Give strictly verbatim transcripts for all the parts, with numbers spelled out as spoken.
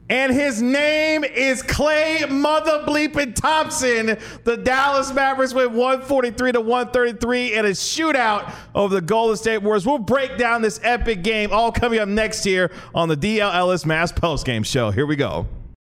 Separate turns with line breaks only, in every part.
And his name is Klay Mother Bleeping Thompson. The Dallas Mavericks win one forty-three to one thirty-three in a shootout over the Golden State Warriors. We'll break down this epic game, all coming up next here on the D L Ellis Mavs postgame show. Here we go.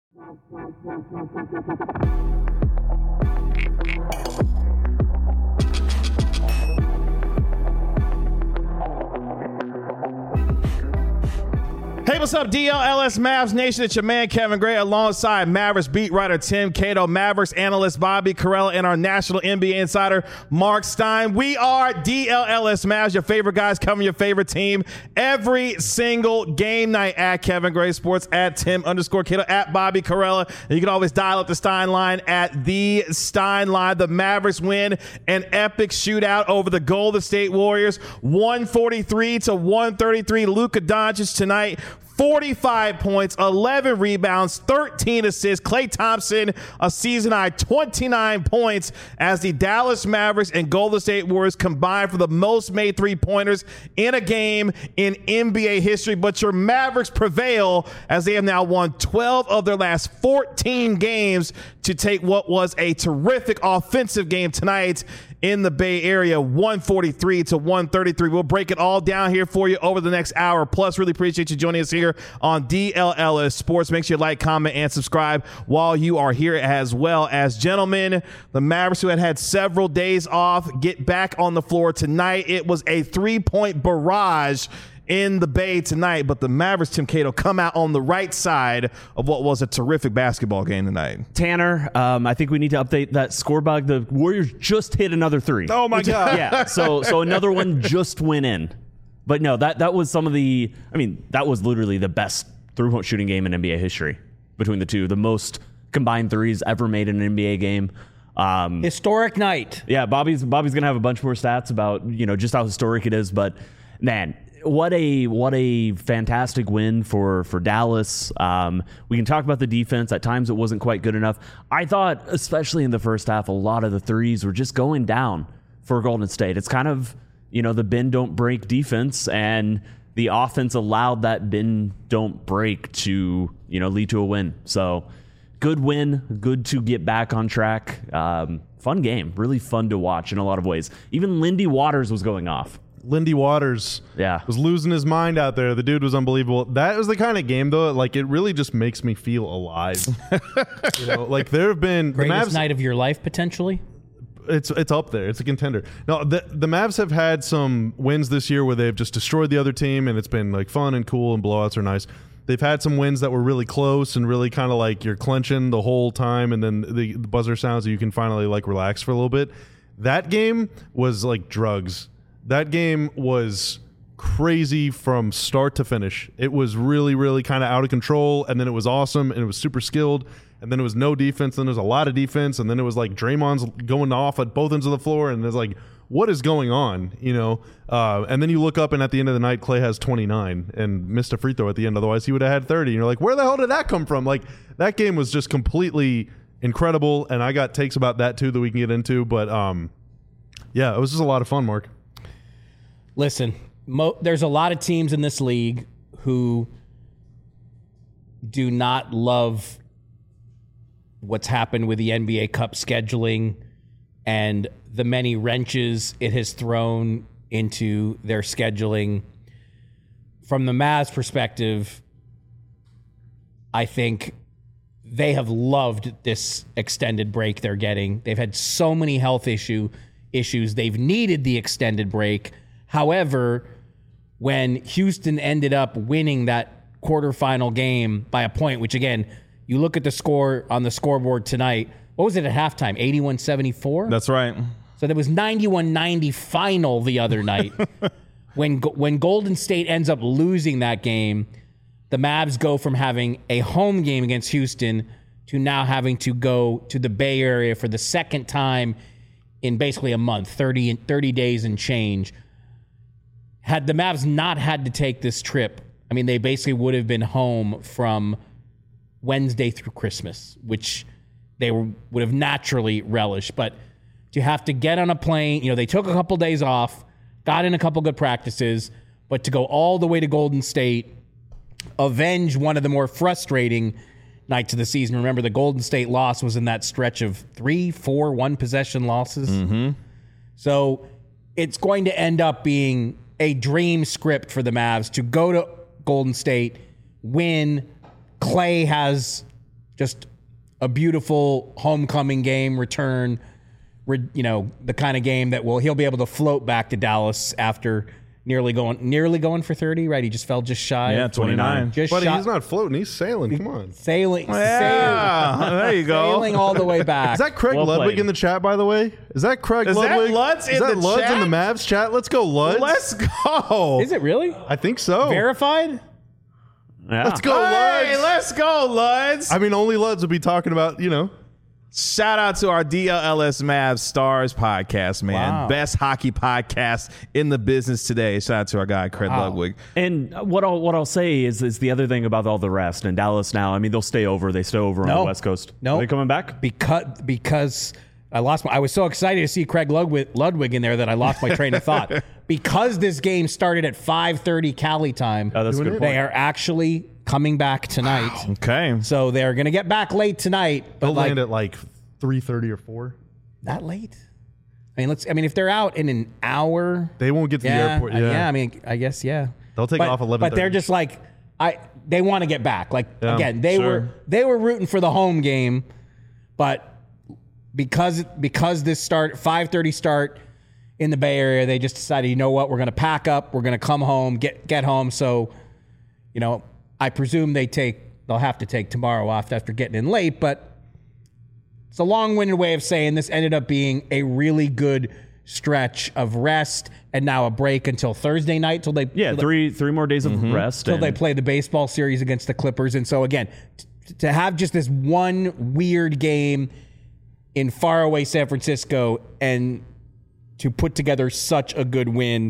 Hey, what's up, D L L S Mavs Nation? It's your man, Kevin Gray, alongside Mavericks beat writer Tim Cato, Mavericks analyst Bobby Carella, and our national N B A insider, Mark Stein. We are D L L S Mavs, your favorite guys covering your favorite team every single game night at Kevin Gray Sports, at Tim underscore Cato, at Bobby Carella. And you can always dial up the Stein line at the Stein line. The Mavericks win an epic shootout over the Golden State Warriors, one forty-three to one thirty-three. Luka Doncic tonight, forty-five points, eleven rebounds, thirteen assists. Klay Thompson, a season-high twenty-nine points as the Dallas Mavericks and Golden State Warriors combined for the most made three-pointers in a game in N B A history. But your Mavericks prevail as they have now won twelve of their last fourteen games to take what was a terrific offensive game tonight in the Bay Area, one forty-three to one thirty-three. We'll break it all down here for you over the next hour. Plus, really appreciate you joining us here on D L L S Sports. Make sure you like, comment, and subscribe while you are here, as well as, gentlemen, the Mavericks, who had had several days off, get back on the floor tonight. It was a three-point barrage in the Bay tonight, but the Mavericks, Tim Cato, come out on the right side of what was a terrific basketball game tonight.
Tanner, um, I think we need to update that score bug. The Warriors just hit another three.
Oh my God.
Yeah, so so another one just went in. But no, that that was some of the, I mean, that was literally the best three-point shooting game in N B A history between the two. The most combined threes ever made in an N B A game. Um,
Historic night.
Yeah, Bobby's Bobby's going to have a bunch more stats about, you know, just how historic it is. But, man, What a what a fantastic win for, for Dallas. Um, we can talk about the defense. At times it wasn't quite good enough. I thought, especially in the first half, a lot of the threes were just going down for Golden State. It's kind of, you know, the bend don't break defense, and the offense allowed that bend don't break to, you know, lead to a win. So good win, good to get back on track. Um, fun game, really fun to watch in a lot of ways. Even Lindy Waters was going off.
Lindy Waters
yeah.
was losing his mind out there. The dude was unbelievable. That was the kind of game, though, like, it really just makes me feel alive. You know, like, there have been
Greatest
the Mavs,
night of your life, potentially.
It's it's up there. It's a contender. No, the the Mavs have had some wins this year where they've just destroyed the other team, and it's been like fun and cool, and blowouts are nice. They've had some wins that were really close and really kind of like you're clenching the whole time, and then the, the buzzer sounds so you can finally like relax for a little bit. That game was like drugs. That game was crazy from start to finish. It was really, really kind of out of control, and then it was awesome, and it was super skilled, and then it was no defense, then there was a lot of defense, and then it was like Draymond's going off at both ends of the floor, and there's like, what is going on, you know? Uh, and then you look up, and at the end of the night, Klay has twenty-nine and missed a free throw at the end. Otherwise, he would have had thirty. And you're like, where the hell did that come from? Like, that game was just completely incredible, and I got takes about that, too, that we can get into. But, um, yeah, it was just a lot of fun, Mark.
Listen, mo- there's a lot of teams in this league who do not love what's happened with the N B A Cup scheduling and the many wrenches it has thrown into their scheduling. From the Mavs perspective, I think they have loved this extended break they're getting. They've had so many health issue issues. They've needed the extended break. However, when Houston ended up winning that quarterfinal game by a point, which, again, you look at the score on the scoreboard tonight, what was it at halftime? eighty-one seventy-four?
That's right.
So there was ninety-one ninety final the other night. when when Golden State ends up losing that game, the Mavs go from having a home game against Houston to now having to go to the Bay Area for the second time in basically a month, thirty, thirty days and change. Had the Mavs not had to take this trip, I mean, they basically would have been home from Wednesday through Christmas, which they were, would have naturally relished. But to have to get on a plane, you know, they took a couple days off, got in a couple good practices, but to go all the way to Golden State, avenge one of the more frustrating nights of the season. Remember, the Golden State loss was in that stretch of three, four, one possession losses.
Mm-hmm.
So it's going to end up being a dream script for the Mavs to go to Golden State, win. Clay has just a beautiful homecoming game return, you know, the kind of game that will he'll be able to float back to Dallas after nearly going nearly going for thirty, right? He just fell just shy.
Yeah,
of
twenty-nine.
Just
Buddy,
shy,
he's not floating. He's sailing. Come on.
sailing,
Yeah,
sailing,
there you go.
sailing all the way back.
Is that Craig
Well
Ludwig
played.
in the chat, by the way? Is that Craig
Is that
Ludwig?
Lutz
Is
in
that
the
Lutz
chat?
in the Mavs chat? Let's go, Lutz.
Let's go.
Is it really
I think so.
verified?
Yeah.
Let's go,
Hey,
Lutz.
let's go, Luds.
I mean, only Lutz would be talking about, you know.
Shout out to our D L L S Mavs Stars podcast, man.
Wow.
Best hockey podcast in the business today. Shout out to our guy, Craig
Wow.
Ludwig.
And what I'll what I'll say is is the other thing about all the rest in Dallas now. I mean, they'll stay over. They stay over on
No.
the West Coast.
No.
Are they coming back?
Because because I lost my I was so excited to see Craig Ludwig, Ludwig in there that I lost my train of thought. Because this game started at five thirty Cali time,
Oh, that's a good
they
point.
are actually coming back tonight.
Okay.
So they're going to get back late tonight, but
They'll
like
land at like three thirty or four.
that late. I mean, let's I mean if they're out in an hour,
They won't get to
yeah,
the airport.
uh,
Yeah.
yeah, I mean, I guess yeah.
They'll take
but,
off eleven thirty.
But they're just like I they want to get back. Like
Yeah,
again, they
sure.
were they were rooting for the home game, but because because this start five thirty start in the Bay Area, they just decided, you know what, we're going to pack up, we're going to come home, get get home. So, you know, I presume they take they'll have to take tomorrow off after getting in late, but it's a long-winded way of saying this ended up being a really good stretch of rest and now a break until Thursday night till they
Yeah,
till
three three more days of rest.
till
and-
they play the baseball series against the Clippers. And so again, t- to have just this one weird game in faraway San Francisco and to put together such a good win,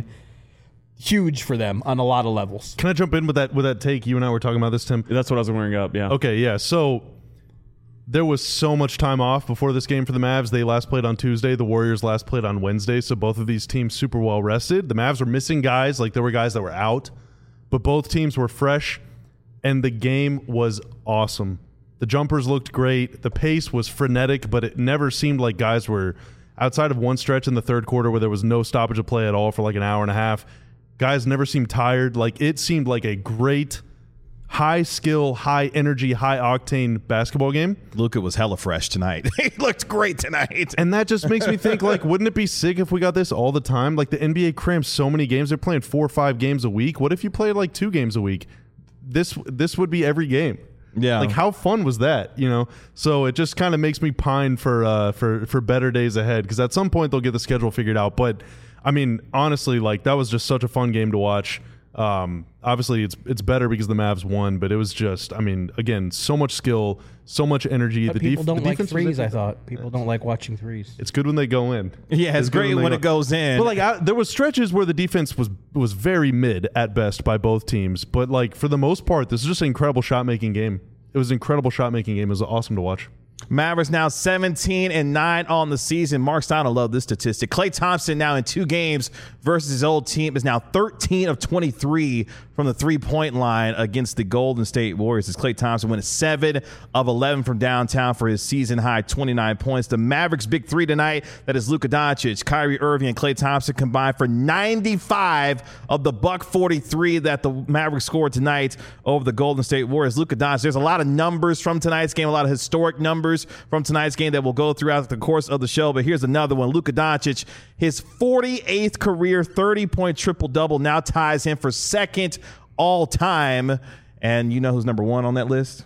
huge for them on a lot of levels.
Can I jump in with that with that take? You and I were talking about this, Tim.
That's what I was wearing up. Yeah.
Okay, yeah. So there was so much time off before this game for the Mavs. They last played on Tuesday. The Warriors last played on Wednesday. So both of these teams super well rested. The Mavs were missing guys. Like there were guys that were out, but both teams were fresh, and the game was awesome. The jumpers looked great. The pace was frenetic, but it never seemed like guys were outside of one stretch in the third quarter where there was no stoppage of play at all for like an hour and a half. Guys never seemed tired. Like it seemed like a great high skill, high energy, high octane basketball game.
Luka was hella fresh tonight. He looked great tonight.
And that just makes me think, like, wouldn't it be sick if we got this all the time? Like the N B A crams so many games. They're playing four or five games a week. What if you played like two games a week? This this would be every game.
Yeah.
Like how fun was that? You know? So it just kind of makes me pine for uh for for better days ahead, because at some point they'll get the schedule figured out. But I mean, honestly, like that was just such a fun game to watch. Um, obviously it's it's better because the Mavs won, but it was just, I mean, again, so much skill, so much energy.
But
the
people
def-
don't
the
like
defense was
threes, I
there.
thought. People don't like watching threes.
It's good when they go in.
Yeah, it's,
good
great
they
when
go-
it goes in.
But like I, there was stretches where the defense was was very mid at best by both teams. But like for the most part, this is just an incredible shot making game. It was an incredible shot making game. It was awesome to watch.
Mavericks now seventeen and nine on the season. Mark Stein will love this statistic. Klay Thompson now in two games versus his old team is now thirteen of twenty-three from the three-point line against the Golden State Warriors. As Klay Thompson went seven of eleven from downtown for his season high twenty-nine points. The Mavericks' big three tonight, that is Luka Doncic, Kyrie Irving, and Klay Thompson combined for ninety-five of the buck forty-three that the Mavericks scored tonight over the Golden State Warriors. Luka Doncic, there's a lot of numbers from tonight's game, a lot of historic numbers from tonight's game that will go throughout the course of the show. But here's another one. Luka Doncic, his forty-eighth career thirty-point triple-double now ties him for second all-time. And you know who's number one on that list?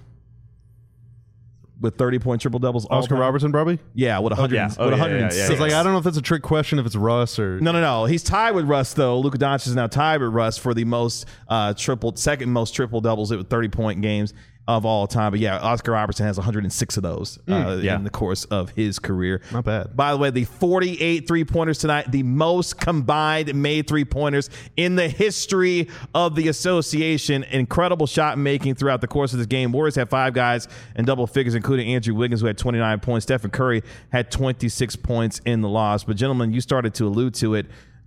With thirty-point triple-doubles all
Oscar
time?
Robertson, probably.
Yeah, with one hundred,
yeah. Oh,
with
yeah, yeah, yeah,
one hundred six.
yeah.
It's like I don't know if that's a trick question, if it's Russ or
No, no, no. He's tied with Russ, though. Luka Doncic is now tied with Russ for the most uh, triple, second most triple doubles with thirty point games of all time. But yeah, Oscar Robertson has one hundred six of those uh,
yeah.
in the course of his career.
Not bad.
By the way, the forty-eight three pointers tonight, the most combined made three pointers in the history of the association. Incredible shot making throughout the course of this game. Warriors had five guys in double figures, including Andrew Wiggins, who had twenty-nine points. Stephen Curry had twenty-six points in the loss. But gentlemen, you started to allude to it.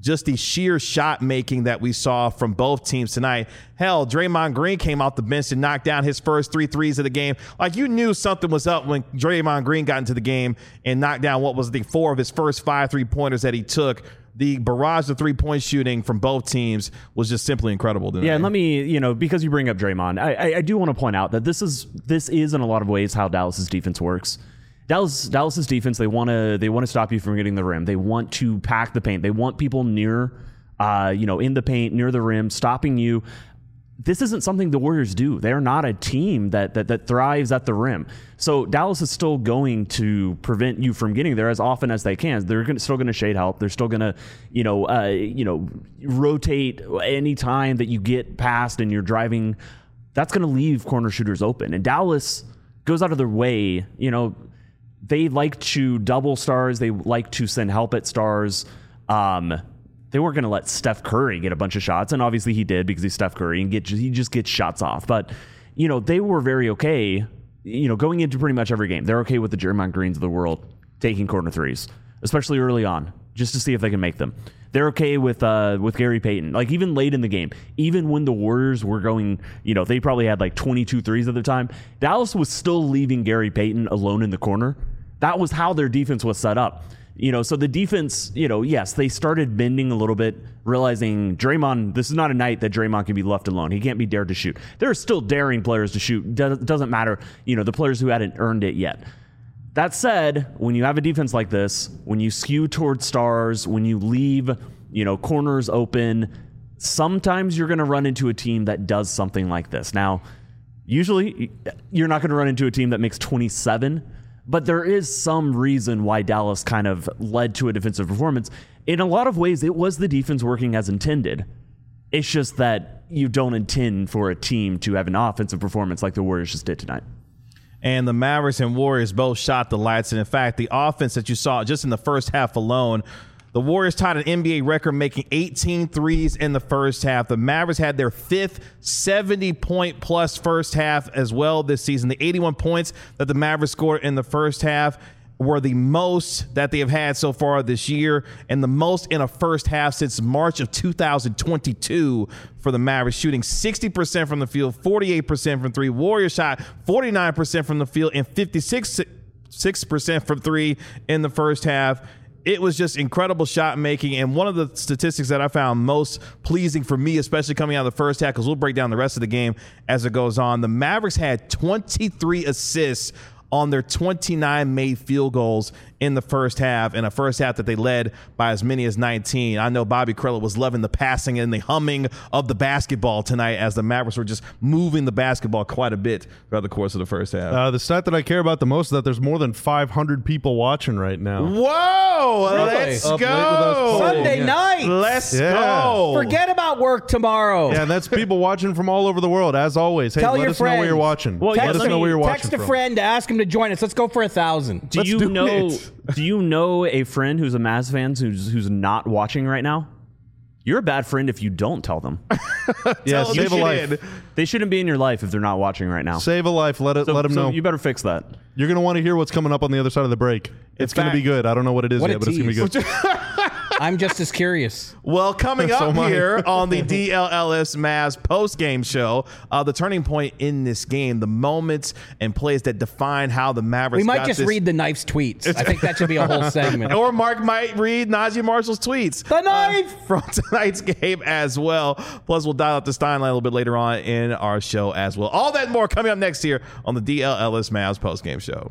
just the sheer shot making that we saw from both teams tonight. Hell, Draymond Green came off the bench and knocked down his first three threes of the game. Like, you knew something was up when Draymond Green got into the game and knocked down what was the four of his first five three-pointers that he took. The barrage of three-point shooting from both teams was just simply incredible tonight.
Yeah, and let me, you know, because you bring up Draymond, I, I, I do want to point out that this is this is in a lot of ways how Dallas's defense works. Dallas Dallas's defense, they want to they want to stop you from getting the rim. They want to pack the paint. They want people near, uh, you know, in the paint, near the rim, stopping you. This isn't something the Warriors do. They're not a team that that that thrives at the rim. So Dallas is still going to prevent you from getting there as often as they can. They're gonna, still going to shade help. They're still going to, you know, uh, you know, rotate any time that you get past and you're driving. That's going to leave corner shooters open. And Dallas goes out of their way, you know. They like to double stars. They like to send help at stars. Um, they weren't going to let Steph Curry get a bunch of shots, and obviously he did because he's Steph Curry and get he just gets shots off. But you know they were very okay. You know, going into pretty much every game, they're okay with the Draymond Greens of the world taking corner threes, especially early on, just to see if they can make them. They're okay with uh, with Gary Payton. Like, even late in the game, even when the Warriors were going, you know, they probably had like twenty-two threes at the time, Dallas was still leaving Gary Payton alone in the corner. That was how their defense was set up. You know, so the defense, you know, yes, they started bending a little bit, realizing Draymond, this is not a night that Draymond can be left alone. He can't be dared to shoot. There are still daring players to shoot. Does, doesn't matter, you know, the players who hadn't earned it yet. That said, when you have a defense like this, when you skew towards stars, when you leave, you know, corners open, sometimes you're going to run into a team that does something like this. Now, usually you're not going to run into a team that makes twenty-seven, but there is some reason why Dallas kind of led to a defensive performance. In a lot of ways, it was the defense working as intended. It's just that you don't intend for a team to have an offensive performance like the Warriors just did tonight.
And the Mavericks and Warriors both shot the lights. And in fact, the offense that you saw just in the first half alone, the Warriors tied an N B A record, making eighteen threes in the first half. The Mavericks had their fifth seventy-point-plus first half as well this season. The eighty-one points that the Mavericks scored in the first half were the most that they have had so far this year, and the most in a first half since March of two thousand twenty-two for the Mavericks, shooting sixty percent from the field, forty-eight percent from three. Warriors shot forty-nine percent from the field and fifty-six percent from three in the first half. It was just incredible shot making. And one of the statistics that I found most pleasing for me, especially coming out of the first half, because we'll break down the rest of the game as it goes on, the Mavericks had twenty-three assists on their twenty-nine made field goals in the first half, in a first half that they led by as many as nineteen. I know Bobby Carell was loving the passing and the humming of the basketball tonight as the Mavericks were just moving the basketball quite a bit throughout the course of the first half.
Uh, the stat that I care about the most is that there's more than five hundred people watching right now.
Whoa!
Really?
Let's
Up late with
go!
us.
Sunday
Yeah.
night.
Let's
Yeah.
go!
Forget about work tomorrow.
Yeah, and that's people watching from all over the world, as always. Hey,
Tell
let
your
us know where
friends.
you're watching.
Well,
let
yeah,
us
let
know
me
where you're watching
Text a
from.
friend to ask him to join us. Let's go for a thousand.
Do
Let's
you
do
know?
it.
Do you know a friend who's a Mavs fan who's who's not watching right now? You're a bad friend if you don't tell them.
Yeah,
Tell them
save a
you
life.
did.
They shouldn't be in your life if they're not watching right now.
Save a life. Let it.
So,
let them
so
know.
you better fix that.
You're gonna want to hear what's coming up on the other side of the break. It's going to
fact-
be good. I don't know what it is
What a
yet, but it's going to be
tease.
good.
I'm just as curious.
Well, coming
So
up
am I.
here on the D L L S Mavs post-game show, uh, the turning point in this game, the moments and plays that define how the Mavericks
We might
got
just
this-
read the Knife's tweets. I think that should be a whole segment.
Or Mark might read Najee Marshall's tweets.
The knife!
Uh, from tonight's game as well. Plus, we'll dial up the Stein line a little bit later on in our show as well. All that and more coming up next here on the D L L S Mavs post-game show.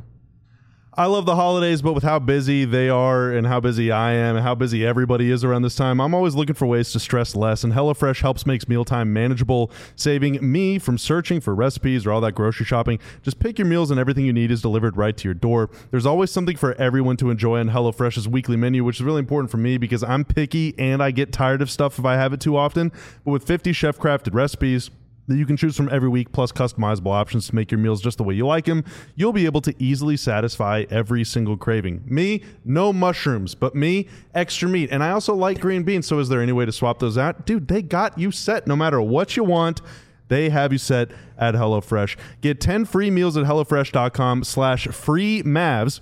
I love the holidays, but with how busy they are and how busy I am and how busy everybody is around this time, I'm always looking for ways to stress less, and HelloFresh helps makes mealtime manageable, saving me from searching for recipes or all that grocery shopping. Just pick your meals and everything you need is delivered right to your door. There's always something for everyone to enjoy on HelloFresh's weekly menu, which is really important for me because I'm picky and I get tired of stuff if I have it too often. But with fifty chef-crafted recipes that you can choose from every week, plus customizable options to make your meals just the way you like them, you'll be able to easily satisfy every single craving. Me, no mushrooms, but me, extra meat. And I also like green beans, so is there any way to swap those out? Dude, they got you set. No matter what you want, they have you set at HelloFresh. Get ten free meals at HelloFresh.com slash free Mavs.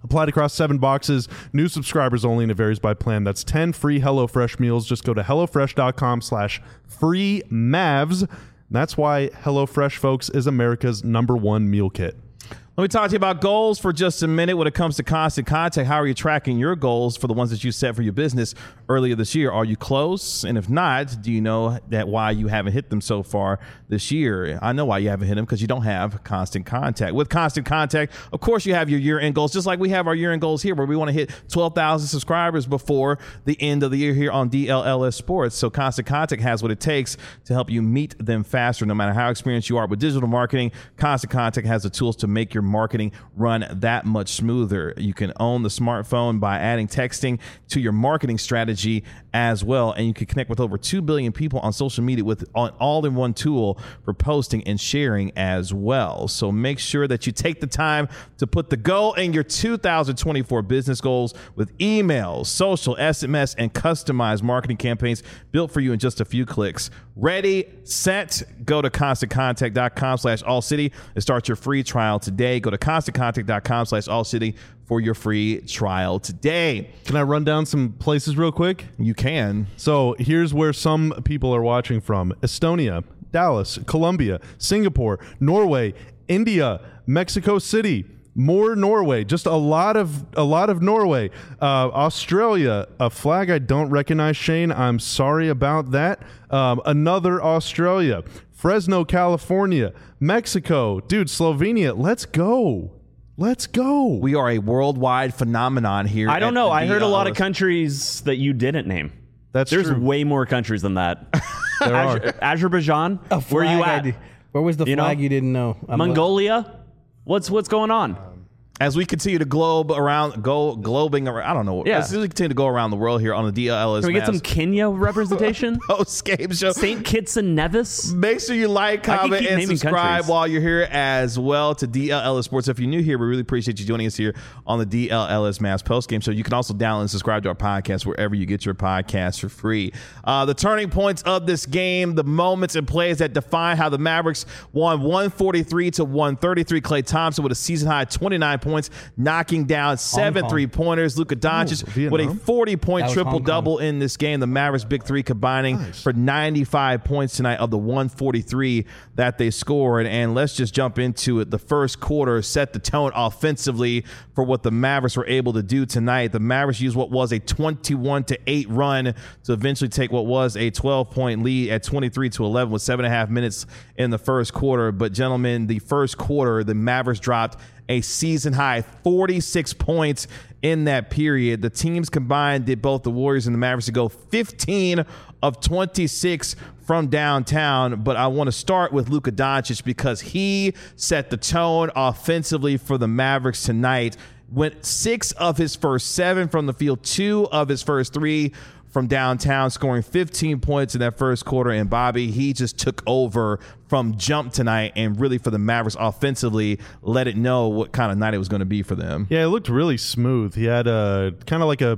Applied across seven boxes. New subscribers only, and it varies by plan. That's ten free HelloFresh meals. Just go to HelloFresh.com slash free Mavs. That's why HelloFresh, folks, is America's number one meal kit.
Let me talk to you about goals for just a minute. When it comes to Constant Contact, how are you tracking your goals for the ones that you set for your business earlier this year? Are you close? And if not, do you know that why you haven't hit them so far this year? I know why you haven't hit them, because you don't have Constant Contact. With Constant Contact, of course, you have your year-end goals, just like we have our year-end goals here, where we want to hit twelve thousand subscribers before the end of the year here on D L L S Sports. So Constant Contact has what it takes to help you meet them faster. No matter how experienced you are with digital marketing, Constant Contact has the tools to make your marketing run that much smoother. You can own the smartphone by adding texting to your marketing strategy as well, and you can connect with over two billion people on social media with an all-in-one tool for posting and sharing as well. So make sure that you take the time to put the goal in your two thousand twenty-four business goals with emails, social, S M S, and customized marketing campaigns built for you in just a few clicks. Ready, set, go to ConstantContact.com slash AllCity and start your free trial today. Go to ConstantContact.com slash AllCity for your free trial today.
Can I run down some places real quick?
You can.
So here's where some people are watching from: Estonia, Dallas, Colombia, Singapore, Norway, India, Mexico City. More Norway, just a lot of a lot of Norway. Uh, Australia, a flag I don't recognize, Shane. I'm sorry about that. Um, another Australia, Fresno, California, Mexico, dude, Slovenia. Let's go, let's go.
We are a worldwide phenomenon here.
I don't know. I heard a lot of
countries.
countries that you didn't name.
That's
There's
true.
way more countries than that.
There are.
Az- Azerbaijan,
A
where you
flag I
at?
di- Where was the
You know?
flag you didn't know? I'm
Mongolia? What's what's going on?
As we continue to globe around, go globing around, I don't know.
Yeah.
As we continue to go around the world here on the D L L S
Can we get some Kenya representation?
post-game show.
Saint Kitts and Nevis?
Make sure you like,
I can
comment,
keep
and
naming
subscribe
countries.
while you're here as well to D L L S Sports. If you're new here, we really appreciate you joining us here on the D L L S Mavs postgame show. You can also download and subscribe to our podcast wherever you get your podcasts for free. Uh, the turning points of this game, the moments and plays that define how the Mavericks won one forty-three to one thirty-three. Klay Thompson with a season-high twenty-nine points, knocking down seven
Kong.
three-pointers. Luka Doncic
Ooh,
with a
Vietnam?
forty-point
That was
triple-double in this game. The Mavericks' big three combining
Nice.
for ninety-five points tonight of the one forty-three that they scored. And let's just jump into it. The first quarter set the tone offensively for what the Mavericks were able to do tonight. The Mavericks used what was a twenty-one to eight run to eventually take what was a twelve-point lead at twenty-three to eleven with seven and a half minutes in the first quarter. But gentlemen, the first quarter, the Mavericks dropped a season-high forty-six points in that period. The teams combined did both the Warriors and the Mavericks to go fifteen of twenty-six from downtown. But I want to start with Luka Doncic because he set the tone offensively for the Mavericks tonight. Went six of his first seven from the field, two of his first three from downtown, scoring fifteen points in that first quarter. And Bobby, he just took over from jump tonight and really for the Mavericks offensively let it know what kind of night it was going to be for them.
Yeah, it looked really smooth. He had a kind of like a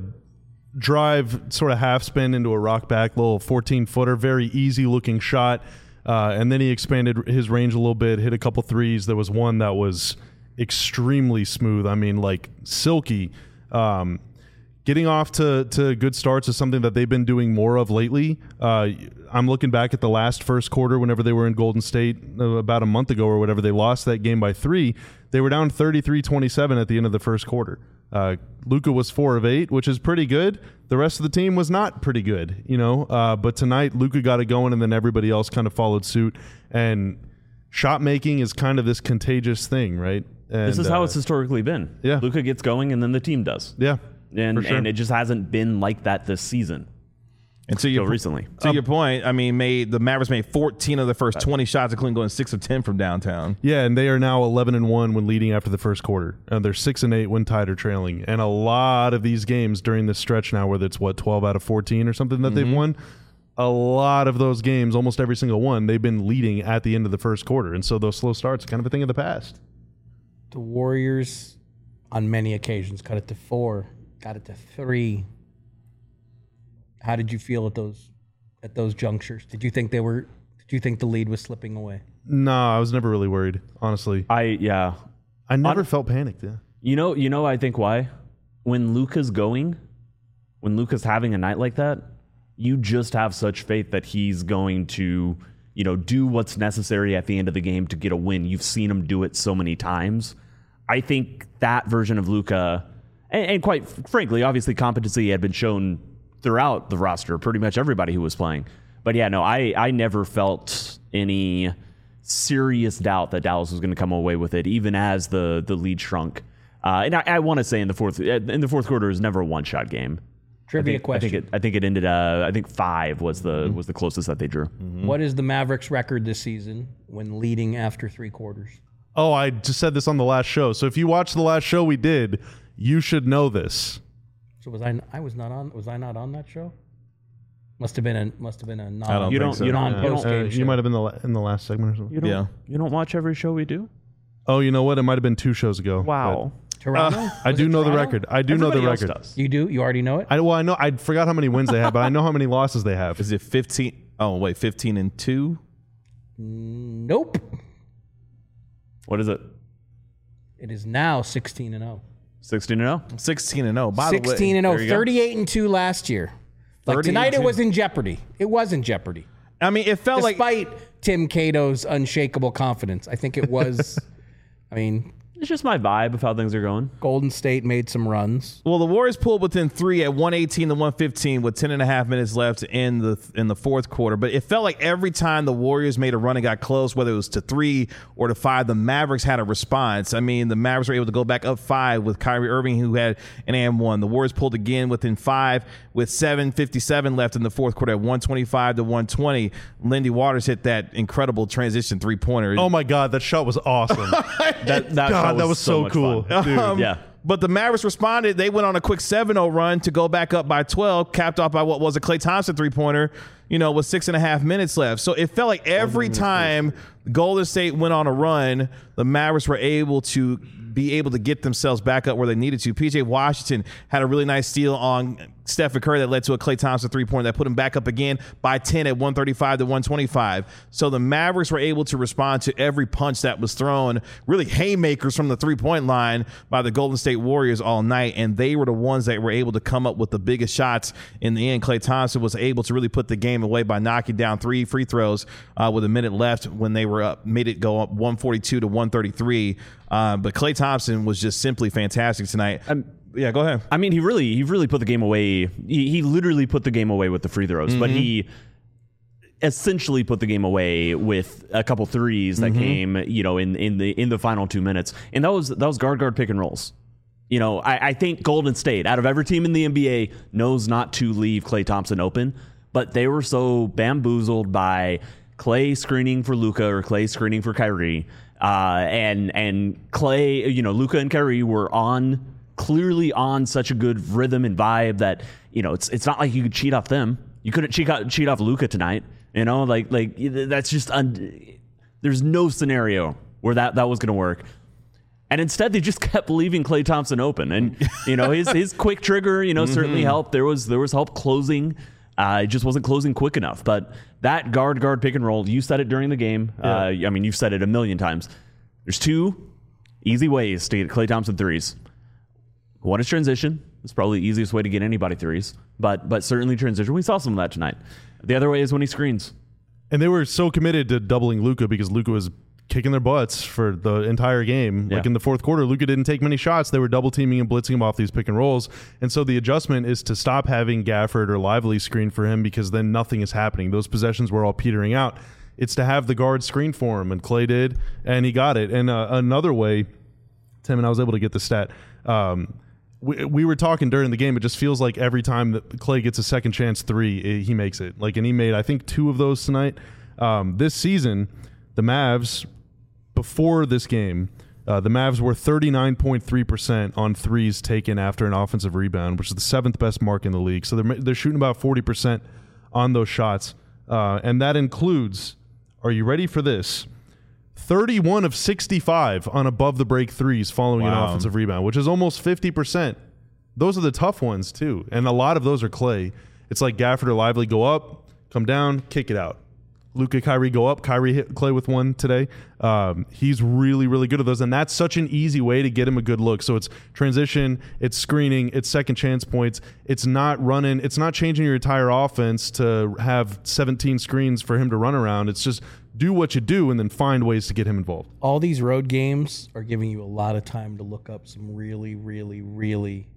drive, sort of half spin into a rock back, little fourteen footer, very easy looking shot. Uh, and then he expanded his range a little bit, hit a couple threes. There was one that was extremely smooth. I mean, like silky. Um, Getting off to, to good starts is something that they've been doing more of lately. Uh, I'm looking back at the last first quarter whenever they were in Golden State uh, about a month ago or whatever. They lost that game by three. They were down thirty-three twenty-seven at the end of the first quarter. Uh, Luka was four of eight, which is pretty good. The rest of the team was not pretty good, you know. Uh, but tonight, Luka got it going, and then everybody else kind of followed suit. And shot making is kind of this contagious thing, right? And,
This is how
uh,
it's historically been.
yeah.
Luka gets going and then the team does.
Yeah.
And,
for sure.
and it just hasn't been like that this season.
And to your
Until recently.
to your point, I mean, made the Mavericks made fourteen of the first twenty shots, including going six of ten from downtown.
Yeah, and they are now eleven and one when leading after the first quarter. And they're six and eight when tied or trailing. And a lot of these games during this stretch now, whether it's what twelve out of fourteen or something that they've won, a lot of those games, almost every single one, they've been leading at the end of the first quarter. And so those slow starts are kind of a thing of the past.
The Warriors, on many occasions, cut it to four, got it to three. How did you feel at those at those junctures? Did you think they were? Did you think the lead was slipping away?
No, I was never really worried, honestly.
I, yeah.
I never
On-
felt panicked. Yeah.
You know, you know, I think why? When Luka's going, when Luka's having a night like that, you just have such faith that he's going to, you know, do what's necessary at the end of the game to get a win. You've seen him do it so many times. I think that version of Luka, and, and quite frankly, obviously competency had been shown throughout the roster, pretty much everybody who was playing. But yeah, no, I, I never felt any serious doubt that Dallas was going to come away with it, even as the the lead shrunk. Uh, and I, I want to say in the fourth in the fourth quarter, it was never a one shot game.
Trivia
I think,
question.
I think it, I think it ended. Uh, I think five was the was the closest that they drew.
Mm-hmm. What is the Mavericks' record this season when leading after three quarters?
Oh, I just said this on the last show. So if you watched the last show we did, you should know this.
So was I? I was not on. Was I not on that show? Must have been a. Must have been a non.
I don't
You
think
don't.
so.
You don't.
Non-
You
post
don't,
game
Uh,
show.
you might have been the la- in the last segment or something.
you don't,
Yeah.
you don't watch every show we do.
Oh, you know what? It might have been two shows ago.
Wow.
Toronto.
but I
Was
do
it
know the
Toronto?
record. I do know the
Everybody else
record.
does.
You do. You already know it.
I well, I know. I forgot how many wins they have, but I know how many losses they have.
Is it fifteen? Oh, wait, fifteen and two?
Nope.
What is it?
It is now sixteen and zero.
Sixteen and zero.
sixteen and oh. By the way,
Sixteen and
there
zero.
you go.
Thirty-eight and two last year. Like
thirty
tonight,
and
it
two.
was in jeopardy. It was in jeopardy.
I mean, it felt like
Despite Tim Cato's unshakable confidence, I think it was. I mean,
It's just my vibe of how things are going.
Golden State made some runs.
Well, the Warriors pulled within three at one eighteen to one fifteen with ten and a half minutes left in the in the fourth quarter. But it felt like every time the Warriors made a run and got close, whether it was to three or to five, the Mavericks had a response. I mean, the Mavericks were able to go back up five with Kyrie Irving, who had an and one. The Warriors pulled again within five with seven fifty-seven left in the fourth quarter at one twenty-five to one twenty. Lindy Waters hit that incredible transition three-pointer.
Oh my God, that shot was awesome.
That, that shot
God, that was so
much
cool.
fun.
Dude.
Um,
Yeah.
But the Mavericks responded. They went on a quick seven oh run to go back up by twelve, capped off by what was a Klay Thompson three-pointer, you know, with six and a half minutes left. So it felt like every time Golden State went on a run, the Mavericks were able to be able to get themselves back up where they needed to. P J Washington had a really nice steal on Stephen Curry that led to a Klay Thompson three-pointer that put him back up again by ten at one thirty-five to one twenty-five. So the Mavericks were able to respond to every punch that was thrown, really haymakers from the three-point line by the Golden State Warriors all night, and they were the ones that were able to come up with the biggest shots in the end. Klay Thompson was able to really put the game away by knocking down three free throws uh, with a minute left when they were up, made it go up one forty-two to one thirty-three. Uh, but Klay Thompson was just simply fantastic tonight. Um, yeah, go ahead.
I mean, he really, he really put the game away. He, he literally put the game away with the free throws, mm-hmm. but he essentially put the game away with a couple threes that mm-hmm. came, you know, in, in the in the final two minutes, and that was that was guard guard pick and rolls. You know, I, I think Golden State, out of every team in the N B A, knows not to leave Klay Thompson open, but they were so bamboozled by Klay screening for Luka or Klay screening for Kyrie, uh, and and Klay, you know, Luka and Kyrie were on. Clearly on such a good rhythm and vibe that, you know, it's it's not like you could cheat off them. You couldn't cheat off, cheat off Luka tonight. You know, like like that's just un- there's no scenario where that, that was going to work. And instead, they just kept leaving Klay Thompson open. And, you know, his his quick trigger, you know, mm-hmm. certainly helped. There was there was help closing. Uh, it just wasn't closing quick enough. But that guard guard pick and roll, you said it during the game. Yeah. Uh, I mean, you've said it a million times. There's two easy ways to get Klay Thompson threes. One is transition. It's probably the easiest way to get anybody threes, but but certainly transition. We saw some of that tonight. The other way is when he screens.
And they were so committed to doubling Luka because Luka was kicking their butts for the entire game.
Yeah.
Like in the fourth quarter, Luka didn't take many shots. They were double teaming and blitzing him off these pick and rolls. And so the adjustment is to stop having Gafford or Lively screen for him because then nothing is happening. Those possessions were all petering out. It's to have the guard screen for him, and Klay did, and he got it. And uh, another way, Tim, and I was able to get the stat, um, We, we were talking during the game. It just feels like every time that Klay gets a second chance three, it, he makes it. Like, and he made, I think, two of those tonight. Um, this season, the Mavs, before this game, uh, the Mavs were thirty-nine point three percent on threes taken after an offensive rebound, which is the seventh best mark in the league. So they're they're shooting about forty percent on those shots, uh, and that includes. Are you ready for this? thirty-one of sixty-five on above the break threes following
Wow.
an offensive rebound, which is almost fifty percent. Those are the tough ones too. And a lot of those are Klay. It's like Gafford or Lively go up, come down, kick it out. Luka, Kyrie go up. Kyrie hit Clay with one today. Um, he's really, really good at those. And that's such an easy way to get him a good look. So it's transition, it's screening, it's second chance points. It's not running, it's not changing your entire offense to have seventeen screens for him to run around. It's just do what you do and then find ways to get him involved.
All these road games are giving you a lot of time to look up some really, really, really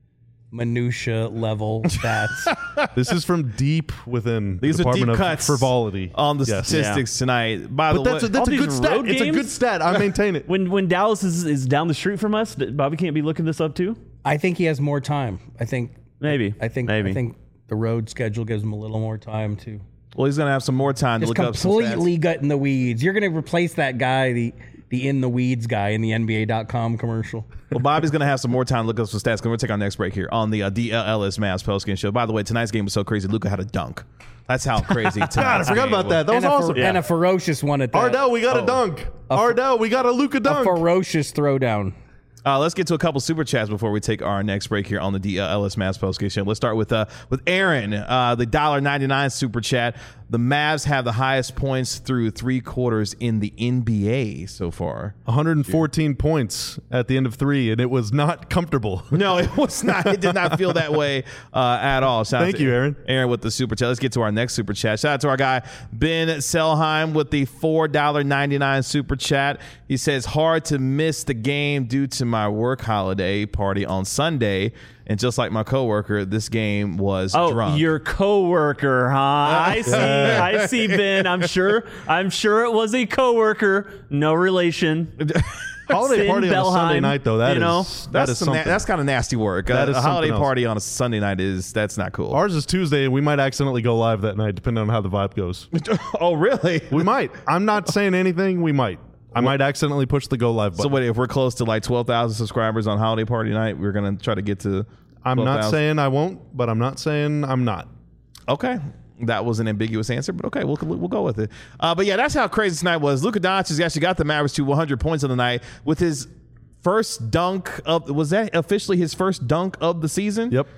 minutia level stats.
This is from deep within
These
the
are
Department
deep
of
cuts
Frivolity
on the
Yes.
statistics tonight. By
But
the
that's
way,
a, that's
all
a good
these
stat.
road
It's a good
games?
stat. I maintain it.
When when Dallas is, is down the street from us, Bobby can't be looking this up too.
I think he has more time. I think
Maybe.
I think
Maybe.
I think the road schedule gives him a little more time to
well, he's going to have some more time to
just
look up some stats.
completely gut in the weeds. You're going to replace that guy, the the in the weeds guy in the N B A dot com commercial.
Well, Bobby's going to have some more time to look up some stats. We're going to take our next break here on the uh, D L L S Mavs postgame show. By the way, tonight's game was so crazy. Luka had a dunk. That's how crazy tonight's
God, I forgot
game
about
was.
that. That was
and, a
awesome.
fer- and a ferocious one at that.
Ardell, we got a dunk. Ardell, we got a Luka
a
dunk.
ferocious throwdown.
Uh, let's get to a couple super chats before we take our next break here on the D L S Mavs postgame show. Let's start with uh, with Aaron, uh, the one dollar ninety-nine super chat. The Mavs have the highest points through three quarters in the N B A so far.
one hundred fourteen points at the end of three, and it was not comfortable.
No, it was not. It did not feel that way uh, at all. Shout
Thank
out to
you, Aaron.
Aaron with the super chat. Let's get to our next super chat. Shout out to our guy Ben Selheim with the four dollars and ninety-nine cents super chat. He says, hard to miss the game due to my work holiday party on Sunday. And just like my coworker, this game was
Oh,
drunk.
your coworker, huh? I see. I see, Ben. I'm sure. I'm sure it was a coworker. No relation.
Holiday
Finn
party on a
Bellheim,
Sunday night, though. That
you know,
is that
that's
is
some na-
something.
that's kind of nasty work.
That
Uh,
is
a holiday
something else.
party on a Sunday night is that's not cool.
Ours is Tuesday, and we might accidentally go live that night, depending on how the vibe goes.
Oh, really?
We might. I'm not saying anything. We might. I might accidentally push the go live button.
So wait, if we're close to like twelve thousand subscribers on holiday party night, we're gonna try to get to.
I'm not
twelve thousand?
saying I won't, but I'm not saying I'm not.
Okay, that was an ambiguous answer, but okay, we'll we'll go with it. Uh, but yeah, that's how crazy tonight was. Luka Doncic actually got the Mavericks to one hundred points on the night with his first dunk of. Was that officially his first dunk of the season?
Yep.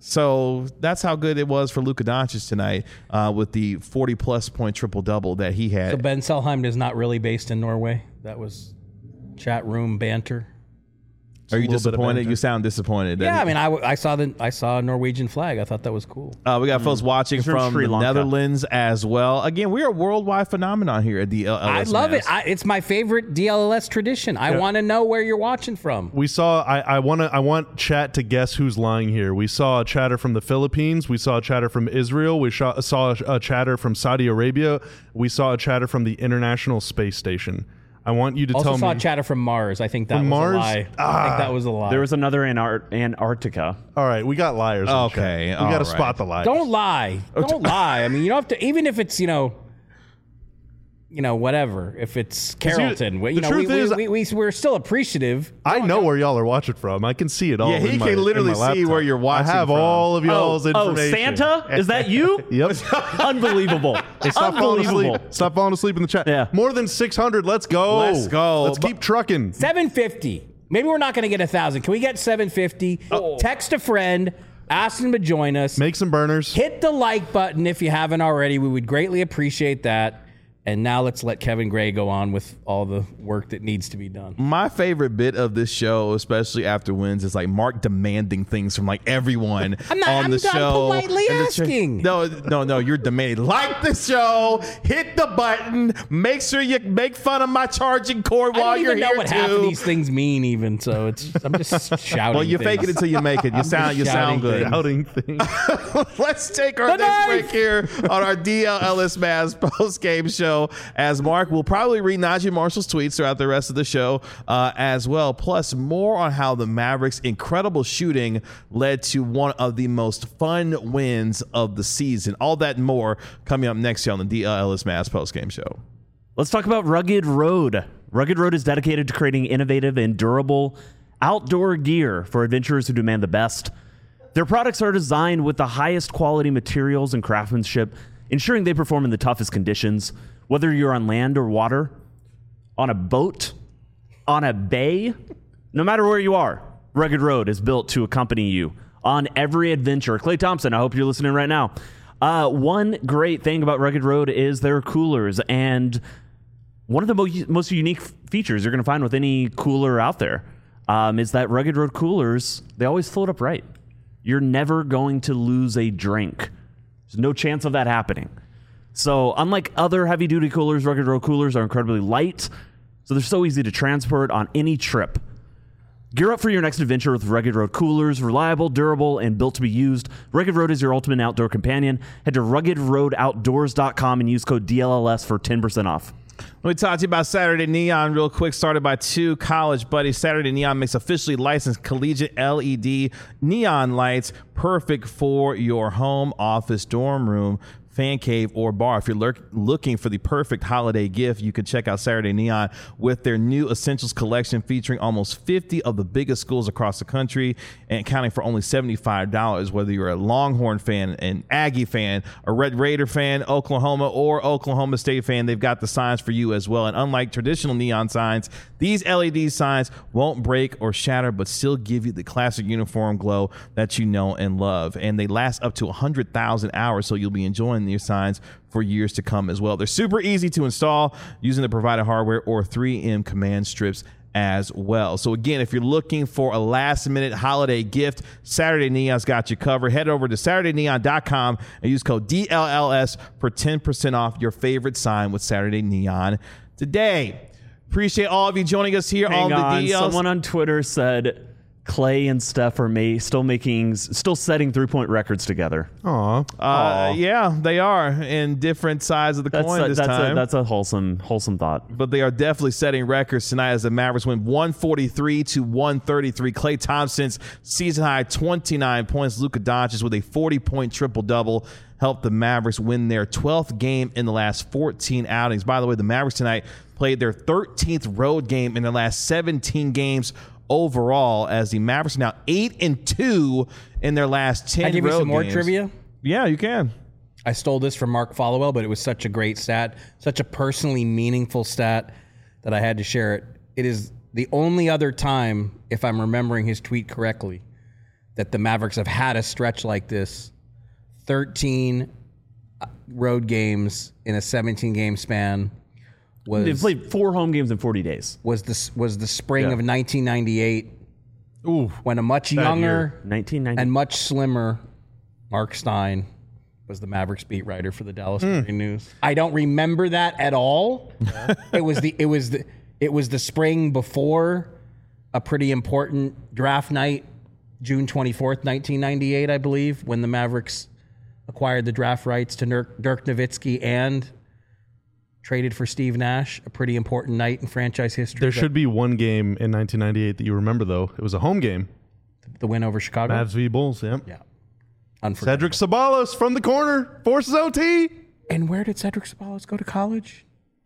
So that's how good it was for Luka Doncic tonight uh, with the forty plus point triple double that he had.
So Ben Selheim is not really based in Norway. That was chat room banter.
Are you
a little bit of
disappointed?
banter.
You sound disappointed. that
Yeah,
he-
I mean, I, w- I saw the I saw a Norwegian flag. I thought that was cool.
Uh, we got folks watching
He's from
from
Sri
the
Lanka.
Netherlands as well. Again, we are a worldwide phenomenon here at the L S
I love
Mavs.
it. I, it's my favorite D L L S tradition. I want to know where you're watching from.
We saw. I, I want to. I want chat to guess who's lying here. We saw a chatter from the Philippines. We saw a chatter from Israel. We saw, saw a, a chatter from Saudi Arabia. We saw a chatter from the International Space Station. I want you to
Also
tell
saw
me.
chatter from Mars. I think that
From
was
Mars?
a lie. I
Ah.
think that was a lie.
There was another Antar- Antarctica.
All right, we got liars. in the chat.
Okay,
we
all
got to
right.
spot the liars.
Don't lie. Don't lie. I mean, you don't have to. Even if it's you know, you know, whatever. If it's Carrollton, we- you
the
know, we,
truth
we,
is-
we, we we're still appreciative.
I know where y'all are watching from. I can see it all.
Yeah, he
in my-
can literally
in my
see
laptop.
where you're watching
I have
from.
all of y'all's
oh, oh,
information.
Santa? Is that you?
Yep.
Unbelievable.
Hey, stop falling
Unbelievable.
asleep. Stop falling asleep in the chat.
Yeah.
More than six hundred. Let's go.
Let's go.
Let's keep trucking.
seven fifty. Maybe we're not going to get a thousand. Can we get seven fifty? Text a friend. Ask them to join us.
Make some burners.
Hit the like button if you haven't already. We would greatly appreciate that. And now let's let Kevin Gray go on with all the work that needs to be done.
My favorite bit of this show, especially after wins, is like Mark demanding things from like everyone
I'm not-
on
I'm
the
done
show.
politely
And the cha-
asking.
no, no, no. You're demanding. Like the show, hit the button. Make sure you make fun of my charging cord
I
while
don't
you're
even know
here
what
too.
half of these things mean, even. So it's I'm just shouting.
well, you
things.
fake it until you make it. You sound, you sound
shouting
good.
Outing thing.
Let's take our
The
next
knife!
break here on our D L L S Mavs post-game show as Mark will probably read Najee Marshall's tweets throughout the rest of the show uh, as well, plus more on how the Mavericks' incredible shooting led to one of the most fun wins of the season. All that and more coming up next here on the D L L S Mavs post-game show.
Let's talk about Rugged Road. Rugged Road is dedicated to creating innovative and durable outdoor gear for adventurers who demand the best. Their products are designed with the highest quality materials and craftsmanship, ensuring they perform in the toughest conditions. Whether you're on land or water, on a boat, on a bay, no matter where you are, Rugged Road is built to accompany you on every adventure. Clay Thompson, I hope you're listening right now. Uh, one great thing about Rugged Road is their coolers, and one of the mo- most unique features you're going to find with any cooler out there um, is that Rugged Road coolers, they always float upright. You're never going to lose a drink. There's no chance of that happening. So unlike other heavy-duty coolers, Rugged Road coolers are incredibly light, so they're so easy to transport on any trip. Gear up for your next adventure with Rugged Road coolers. Reliable, durable, and built to be used. Rugged Road is your ultimate outdoor companion. Head to rugged road outdoors dot com and use code D L L S for ten percent off.
Let me talk to you about Saturday Neon real quick. Started by two college buddies. Saturday Neon makes officially licensed collegiate L E D neon lights, perfect for your home, office, dorm room, fan cave, or bar. If you're lurk- looking for the perfect holiday gift, you can check out Saturday Neon with their new Essentials collection featuring almost fifty of the biggest schools across the country and accounting for only seventy-five dollars. Whether you're a Longhorn fan, an Aggie fan, a Red Raider fan, Oklahoma, or Oklahoma State fan, they've got the signs for you as well. And unlike traditional neon signs, these L E D signs won't break or shatter, but still give you the classic uniform glow that you know and love. And they last up to one hundred thousand hours, so you'll be enjoying your signs for years to come as well. They're super easy to install using the provided hardware or three M command strips as well. So again, if you're looking for a last minute holiday gift, Saturday Neon's got you covered. Head over to saturday neon dot com and use code D L L S for ten percent off your favorite sign with Saturday Neon today. Appreciate all of you joining us here
Hang
on,
on,
the D Ls.
someone on Twitter said Clay and Steph are may, still making, still setting three-point records together.
Aw.
Uh, yeah, they are in different sides of the
That's
coin
a,
this
that's
time.
a that's a wholesome wholesome thought.
But they are definitely setting records tonight as the Mavericks win one forty-three to one thirty-three. Klay Thompson's season high twenty-nine points. Luka Doncic with a forty-point triple-double helped the Mavericks win their twelfth game in the last fourteen outings. By the way, the Mavericks tonight played their thirteenth road game in their last seventeen games overall, as the Mavericks are now eight and two in their last ten
Can I give you
road
some more
games.
trivia?
Yeah, you can.
I stole this from Mark Followell, but it was such a great stat, such a personally meaningful stat that I had to share it. It is the only other time, if I'm remembering his tweet correctly, that the Mavericks have had a stretch like this. thirteen road games in a seventeen game span. Was,
They've played four home games in forty days.
was the, was the spring
Yeah.
of nineteen ninety-eight,
Ooh.
when a much
Bad
younger
year.
nineteen ninety
and much slimmer Mark Stein was the Mavericks beat writer for the Dallas Morning News. I don't remember that at all. it was the it was the it was the spring before a pretty important draft night, June twenty-fourth, nineteen ninety-eight, I believe, when the Mavericks acquired the draft rights to Dirk, Dirk Nowitzki and traded for Steve Nash. A pretty important night in franchise history.
There
But
should be one game in nineteen ninety-eight that you remember, though. It was a home game.
the win over Chicago.
Mavs v. Bulls, yeah.
Yeah, unforgettable.
Cedric Sabalos from the corner forces O T.
And where did Cedric Sabalos go to college?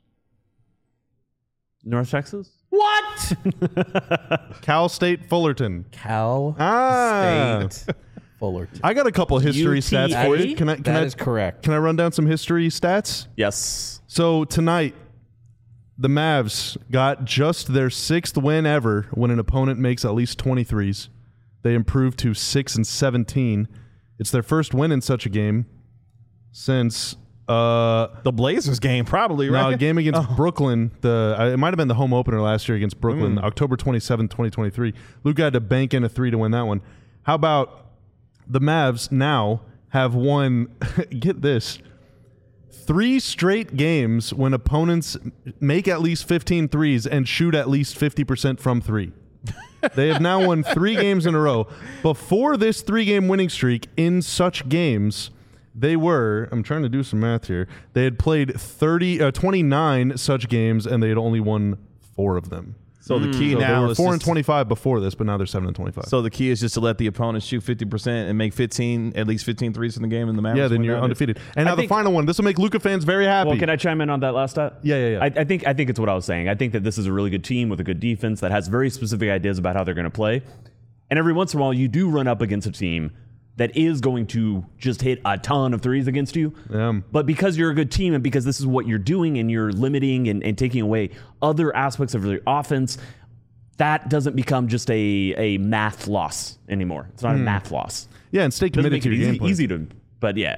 North Texas.
What?
Cal State Fullerton.
Cal
Ah.
State Fullerton.
I got a couple history
U T A?
stats for you. Can I? Can
That
I,
is correct.
Can I run down some history stats?
Yes.
So tonight, the Mavs got just their sixth win ever when an opponent makes at least twenty-threes. They improved to six and seventeen. It's their first win in such a game since uh,
The Blazers game, probably,
no,
right?
a game against Brooklyn. The uh, it might have been the home opener last year against Brooklyn,
Mm.
October twenty-seventh, twenty twenty-three. Luka had to bank in a three to win that one. How about the Mavs now have won, get this, three straight games when opponents make at least fifteen threes and shoot at least fifty percent from three. They have now won three games in a row. Before this three-game winning streak in such games, they were, I'm trying to do some math here, they had played thirty, uh, twenty-nine such games, and they had only won four of them.
So the key
So they
now
were
is
four and
just-
twenty-five before this, but now they're seven and twenty-five.
So the key is just to let the opponent shoot fifty percent and make fifteen, at least fifteen threes in the game, and the Mavericks
yeah, then
win
you're
that.
undefeated. And
I
now the
think-
final one. This will make Luka fans very happy.
Well, can I chime in on that last stat?
Yeah, yeah, yeah.
I, I think I think it's what I was saying. I think that this is a really good team with a good defense that has very specific ideas about how they're going to play. And every once in a while, you do run up against a team that is going to just hit a ton of threes against you.
Yeah.
But because you're a good team and because this is what you're doing and you're limiting and, and taking away other aspects of your offense, that doesn't become just a, a math loss anymore. It's not a math loss.
yeah, and stay
Doesn't
committed
make
to
it
your
easy,
game plan.
easy to, but yeah.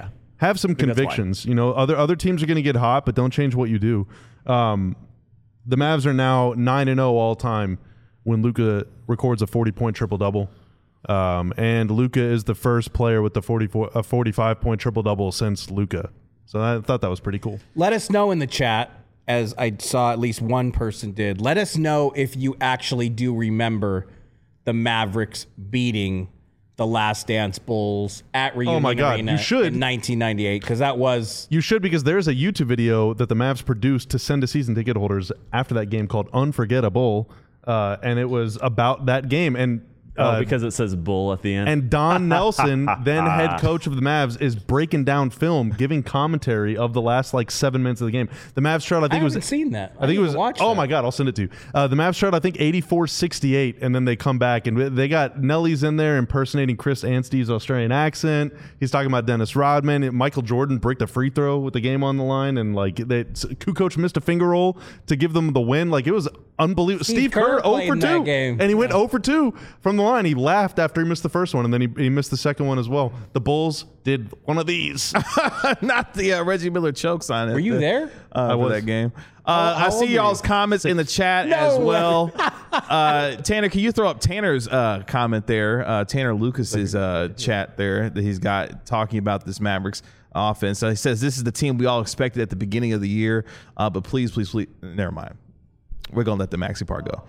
have some convictions. You know, other other teams are going to get hot, but don't change what you do. Um, the Mavs are now nine and zero all time when Luka records a forty point triple double, um, and Luka is the first player with the forty-four a forty-five point triple double since Luka. So I thought that was pretty cool.
Let us know in the chat, as I saw at least one person did. Let us know if you actually do remember the Mavericks beating the Last Dance Bulls at Reunion
Oh my God,
Arena
you should.
in nineteen ninety-eight, because that was...
You should, because there's a YouTube video that the Mavs produced to send to season ticket holders after that game called Unforgettable, uh, and it was about that game. And uh,
oh, because it says bull at the end.
And Don Nelson, then head coach of the Mavs, is breaking down film, giving commentary of the last like seven minutes of the game. The Mavs tried, I think
I
it was...
haven't seen that.
I think it was...
Watch
oh
that.
my God, I'll send it to you. Uh, the Mavs tried, I think, eighty-four sixty-eight, and then they come back, and they got Nelly's in there impersonating Chris Anstey's Australian accent. He's talking about Dennis Rodman. And Michael Jordan bricked a free throw with the game on the line, and like they, Kukoc missed a finger roll to give them the win. Like, it was unbelievable.
Steve
Steve,
Kerr
Kerr oh
played
for
in that
two,
game.
and he went
Yeah.
oh for two from the line. He laughed after he missed the first one, and then he, he missed the second one as well. The Bulls did one of these.
Not the uh, Reggie Miller choke sign.
Were you there?
Uh, for
was.
that game. Uh,
How- how
I
old
see
were
y'all's
you?
comments in the chat
No.
as well. uh, Tanner, can you throw up Tanner's uh, comment there? Uh, Tanner Lucas's uh, chat there that he's got talking about this Mavericks offense. So he says this is the team we all expected at the beginning of the year, uh, but please, please, please, never mind. We're gonna let the maxi part go.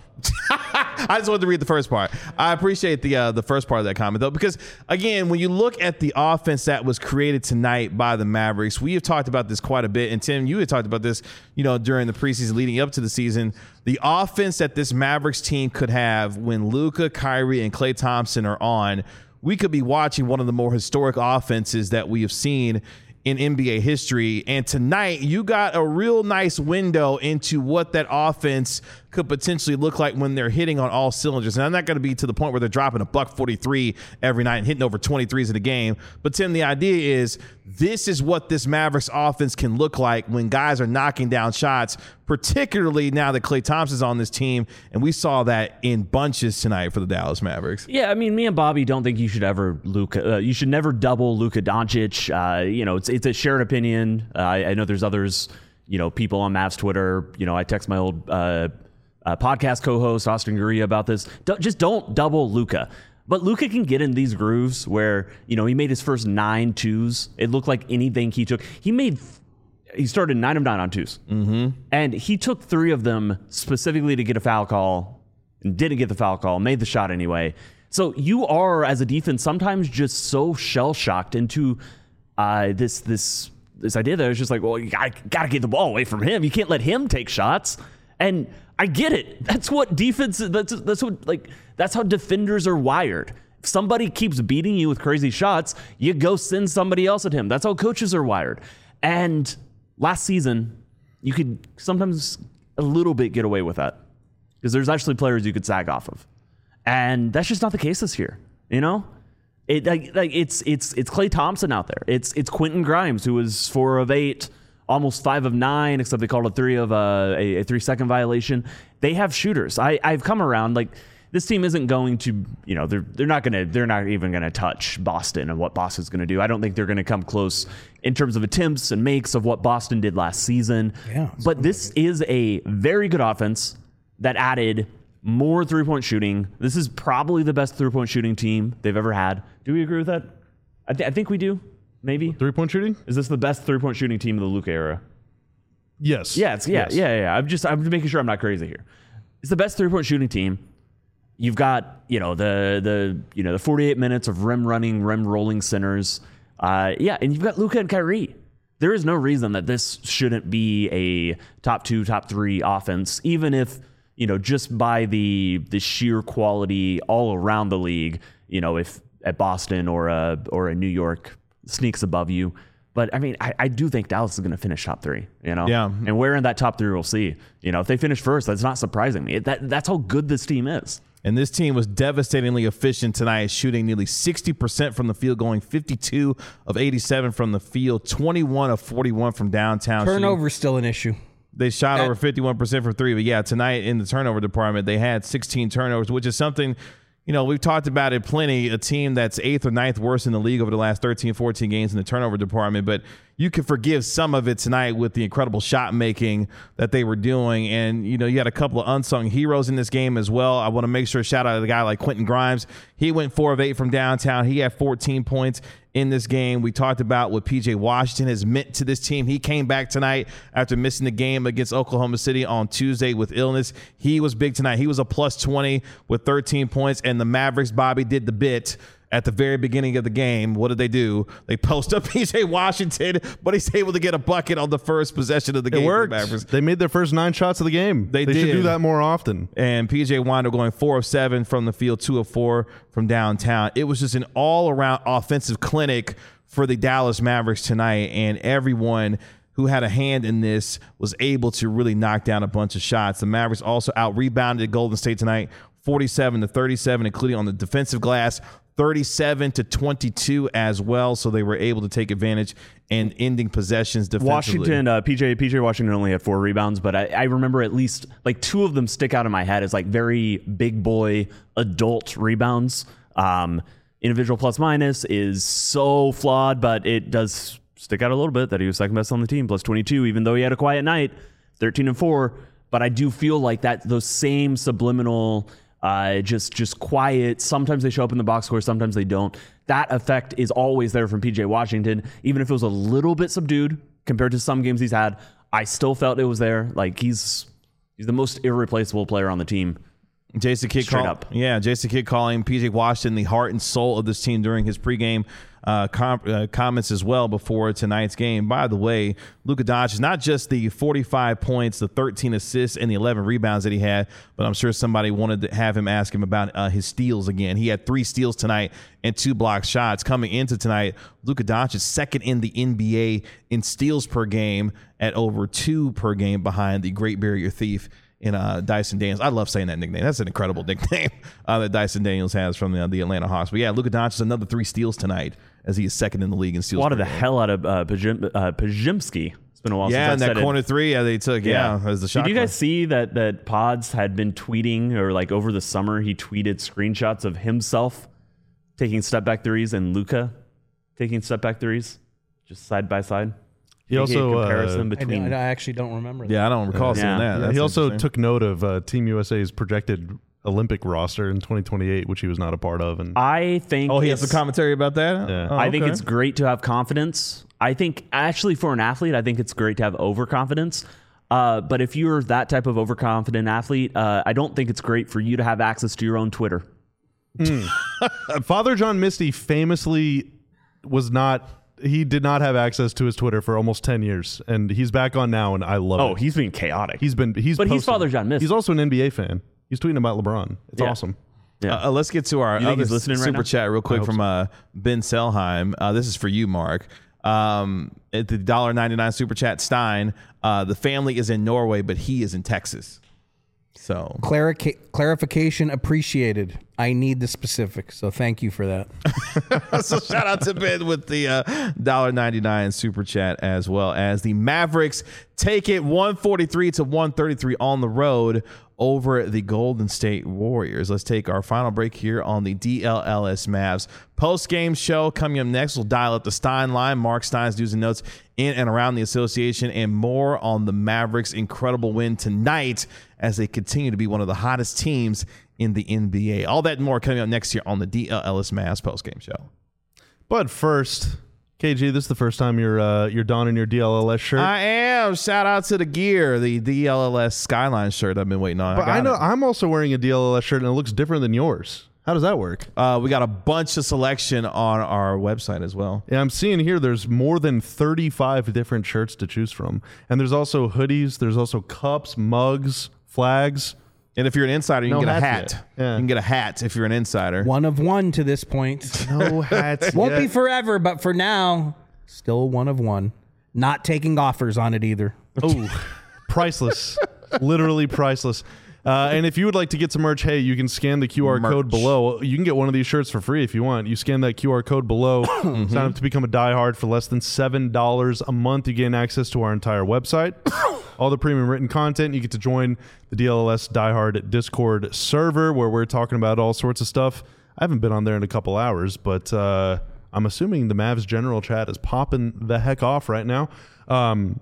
I just wanted to read the first part. I appreciate the uh, the first part of that comment though, because again, when you look at the offense that was created tonight by the Mavericks, we have talked about this quite a bit. And Tim, you had talked about this, you know, during the preseason leading up to the season. The offense that this Mavericks team could have when Luka, Kyrie, and Klay Thompson are on, we could be watching one of the more historic offenses that we have seen in N B A history. And tonight you got a real nice window into what that offense could potentially look like when they're hitting on all cylinders. And I'm not going to be to the point where they're dropping a buck forty-three every night and hitting over twenty-threes in a game. But Tim, the idea is this is what this Mavericks offense can look like when guys are knocking down shots, particularly now that Klay Thompson's on this team. And we saw that in bunches tonight for the Dallas Mavericks.
Yeah, I mean, me and Bobby don't think you should ever Luka. Uh, you should never double Luka Doncic. Uh, you know, it's it's a shared opinion. Uh, I, I know there's others. You know, people on Mavs Twitter. You know, I text my old uh, uh, podcast co-host Austin Guria about this. Don't, just don't double Luka. But Luka can get in these grooves where, you know, he made his first nine twos. It looked like anything he took. He made. He started nine of nine on twos, mm-hmm. and he took three of them specifically to get a foul call, and didn't get the foul call. Made the shot anyway. So you are, as a defense, sometimes just so shell shocked into uh, this this this idea that it's just like, well, you gotta, gotta get the ball away from him. You can't let him take shots. And I get it. That's what defense. That's that's what like. That's how defenders are wired. If somebody keeps beating you with crazy shots, you go send somebody else at him. That's how coaches are wired. And last season, you could sometimes a little bit get away with that because there's actually players you could sag off of, and that's just not the case this year. You know, it like like it's it's it's Klay Thompson out there. It's it's Quentin Grimes, who was four of eight, almost five of nine, except they called a three of uh, a, a three second violation. They have shooters. I I've come around like. This team isn't going to, you know, they're they're not gonna they're not even gonna touch Boston and what Boston's gonna do. I don't think they're gonna come close in terms of attempts and makes of what Boston did last season.
Yeah,
but this is a very good offense that added more three point shooting. This is probably the best three point shooting team they've ever had. Do we agree with that? I, th- I think we do. Maybe
Three point shooting?
is this the best three point shooting team of the Luka era?
Yes.
Yeah, it's, yeah,
Yes.
yeah, yeah. I'm just I'm just making sure I'm not crazy here. It's the best three point shooting team. You've got, you know, the the you know the forty-eight minutes of rim running, rim rolling centers. Uh, yeah, and you've got Luka and Kyrie. There is no reason that this shouldn't be a top two, top three offense, even if, you know, just by the the sheer quality all around the league, you know, if at Boston or a or a New York sneaks above you. But I mean, I, I do think Dallas is going to finish top three, you know?
Yeah.
And where in that top three we'll see. You know, if they finish first, that's not surprising me. That that's how good this team is.
And this team was devastatingly efficient tonight, shooting nearly sixty percent from the field, going fifty-two of eighty-seven from the field, twenty-one of forty-one from downtown.
Turnover's still an issue.
They shot
That-
over fifty-one percent from three. But yeah, tonight in the turnover department, they had sixteen turnovers, which is something you know, we've talked about it plenty, a team that's eighth or ninth worst in the league over the last thirteen, fourteen games in the turnover department, but you can forgive some of it tonight with the incredible shot making that they were doing. And, you know, you had a couple of unsung heroes in this game as well. I want to make sure shout out to the guy like Quentin Grimes. He went four of eight from downtown. He had fourteen points in this game. We talked about what P J Washington has meant to this team. He came back tonight after missing the game against Oklahoma City on Tuesday with illness. He was big tonight. He was a plus twenty with thirteen points, and the Mavericks, Bobby, did the bit at the very beginning of the game. What did they do? They post up P J Washington, but he's able to get a bucket on the first possession of the game.
It worked.
The
they made their first nine shots of the game.
They,
they
did.
should do that more often.
And P J wound up going four of seven from the field, two of four from downtown. It was just an all-around offensive clinic for the Dallas Mavericks tonight, and everyone who had a hand in this was able to really knock down a bunch of shots. The Mavericks also out-rebounded Golden State tonight, forty-seven to thirty-seven, including on the defensive glass, thirty-seven to twenty-two as well. So they were able to take advantage and ending possessions defensively.
Washington, uh, P J, P J Washington only had four rebounds, but I, I remember at least like two of them stick out in my head as like very big boy adult rebounds. Um, individual plus minus is so flawed, but it does stick out a little bit that he was second best on the team, plus twenty-two, even though he had a quiet night, thirteen and four. But I do feel like that those same subliminal, uh, just just quiet. Sometimes they show up in the box score, sometimes they don't. That effect is always there from P J Washington, even if it was a little bit subdued compared to some games he's had. I still felt it was there. Like he's he's the most irreplaceable player on the team.
Jason Kidd
Straight
call,
up.
Yeah, Jason Kidd calling P J Washington the heart and soul of this team during his pregame uh, com- uh, comments as well before tonight's game. By the way, Luka Doncic is not just the forty-five points, the thirteen assists, and the eleven rebounds that he had, but I'm sure somebody wanted to have him ask him about uh, his steals again. He had three steals tonight and two blocked shots. Coming into tonight, Luka Doncic is second in the N B A in steals per game at over two per game behind the Great Barrier Thief in uh, Dyson Daniels. I love saying that nickname. That's an incredible nickname uh, that Dyson Daniels has from the, the Atlanta Hawks. But yeah, Luka Doncic another three steals tonight as he is second in the league in steals.
Swatted
per
the
game.
hell out of uh, Pajim, uh, Pajimski. It's been a while
Yeah, and
since I've
that
said
corner
it.
three yeah, they took, yeah, as the shot
Did you
clock.
guys see that that Pods had been tweeting, or like over the summer, he tweeted screenshots of himself taking step back threes and Luka taking step back threes, just side by side?
He
Making
also,
a comparison
uh,
I,
between.
don't- I actually don't remember that.
Yeah, I don't recall seeing
Yeah.
that.
Yeah,
That's
he also
interesting.
took note of uh, Team U S A's projected Olympic roster in twenty twenty-eight, which he was not a part of. And
I think.
Oh, he has
it's-
some commentary about that?
Yeah.
Oh,
I think
okay.
it's great to have confidence. I think actually for an athlete, I think it's great to have overconfidence. Uh, but if you're that type of overconfident athlete, uh, I don't think it's great for you to have access to your own Twitter.
Father John Misty famously was not. He did not have access to his Twitter for almost ten years, and he's back on now, and I love
Oh,
it.
he's being chaotic.
He's been he's
But he's
posted-
Father John Misty.
He's also an N B A fan. He's tweeting about LeBron. It's
Yeah.
awesome.
Yeah.
Uh, uh, let's get to our
You think
other
he's listening right
super
now?
chat real quick from uh, Ben Selheim. Uh, this is for you, Mark. Um, at the one dollar ninety-nine super chat, Stein. Uh, the family is in Norway, but he is in Texas. So
Clarica- clarification appreciated. I need the specifics, so thank you for that.
so shout out to Ben with the uh, one dollar ninety-nine super chat, as well as the Mavericks take it one forty-three to one thirty-three on the road over the Golden State Warriors. Let's take our final break here on the D L L S Mavs post-game show. Coming up next, we'll dial up the Stein line, Mark Stein's news and notes in and around the association, and more on the Mavericks' incredible win tonight as they continue to be one of the hottest teams in the N B A. All that and more coming up next year on the D L L S Mavs post-game show.
But first, K G, this is the first time you're uh, you're donning your D L L S shirt.
I am. Shout out to the gear, the D L L S Skyline shirt I've been waiting on.
but
got
I know
it.
I'm also wearing a D L L S shirt, and it looks different than yours. How does that work?
Uh, we got a bunch of selection on our website as well.
Yeah, I'm seeing here there's more than thirty-five different shirts to choose from. And there's also hoodies, there's also cups, mugs, flags.
And if you're an insider, you
No
can get a
hats
hat.
yet. Yeah.
You can get a hat if you're an insider.
One of one to this point.
No hats.
Won't
yet.
be forever, but for now, still one of one. Not taking offers on it either.
Oh, priceless. Literally priceless. Uh, and if you would like to get some merch, hey, you can scan the Q R
Merch.
code below. You can get one of these shirts for free if you want. You scan that Q R code below, sign up to become a diehard for less than seven dollars a month. You gain access to our entire website. all the premium written content. You get to join the D L L S Diehard Discord server where we're talking about all sorts of stuff. I haven't been on there in a couple hours, but uh, I'm assuming the Mavs general chat is popping the heck off right now. Um,